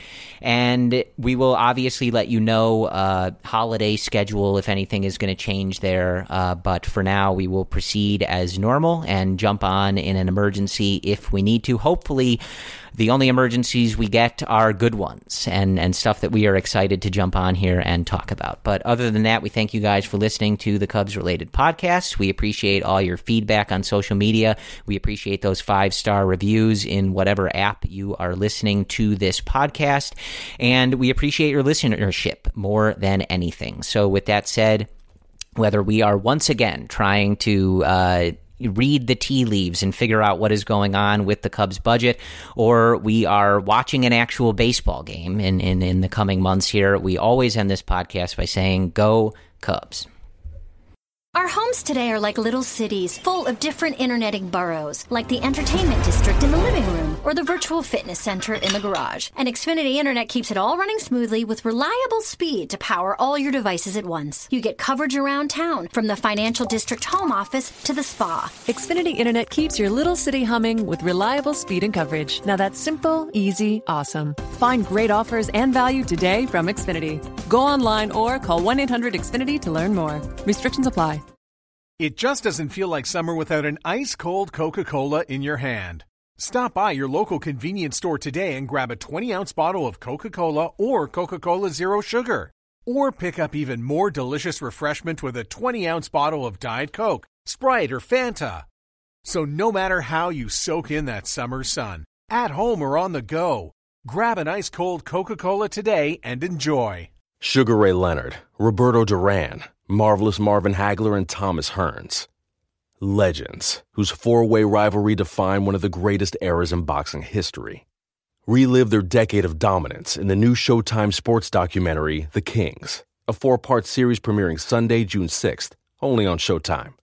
G: and we will obviously let you know uh, holiday schedule if anything is going to change there, uh, but for now we will proceed as normal and jump on in an emergency if we need to. Hopefully the only emergencies we get are good ones and, and stuff that we are excited to jump on here and talk about. But other than that, we thank you guys for listening to the Cubs-related podcast. We appreciate all your feedback on social media. We appreciate those five-star reviews in whatever app you are listening to this podcast. And we appreciate your listenership more than anything. So with that said, whether we are once again trying to uh, read the tea leaves and figure out what is going on with the Cubs budget, or we are watching an actual baseball game in, in, in the coming months here, we always end this podcast by saying, go Cubs.
D: Our homes today are like little cities full of different interneting boroughs, like the entertainment district in the living room or the virtual fitness center in the garage. And Xfinity Internet keeps it all running smoothly with reliable speed to power all your devices at once. You get coverage around town, from the financial district home office to the spa.
E: Xfinity Internet keeps your little city humming with reliable speed and coverage. Now that's simple, easy, awesome. Find great offers and value today from Xfinity. Go online or call one eight hundred X Finity to learn more. Restrictions apply.
F: It just doesn't feel like summer without an ice-cold Coca-Cola in your hand. Stop by your local convenience store today and grab a twenty-ounce bottle of Coca-Cola or Coca-Cola Zero Sugar. Or pick up even more delicious refreshment with a twenty-ounce bottle of Diet Coke, Sprite, or Fanta. So no matter how you soak in that summer sun, at home or on the go, grab an ice-cold Coca-Cola today and enjoy.
K: Sugar Ray Leonard, Roberto Duran, Marvelous Marvin Hagler, and Thomas Hearns. Legends, whose four-way rivalry defined one of the greatest eras in boxing history. Relive their decade of dominance in the new Showtime sports documentary, The Kings, a four-part series premiering Sunday, June sixth, only on Showtime.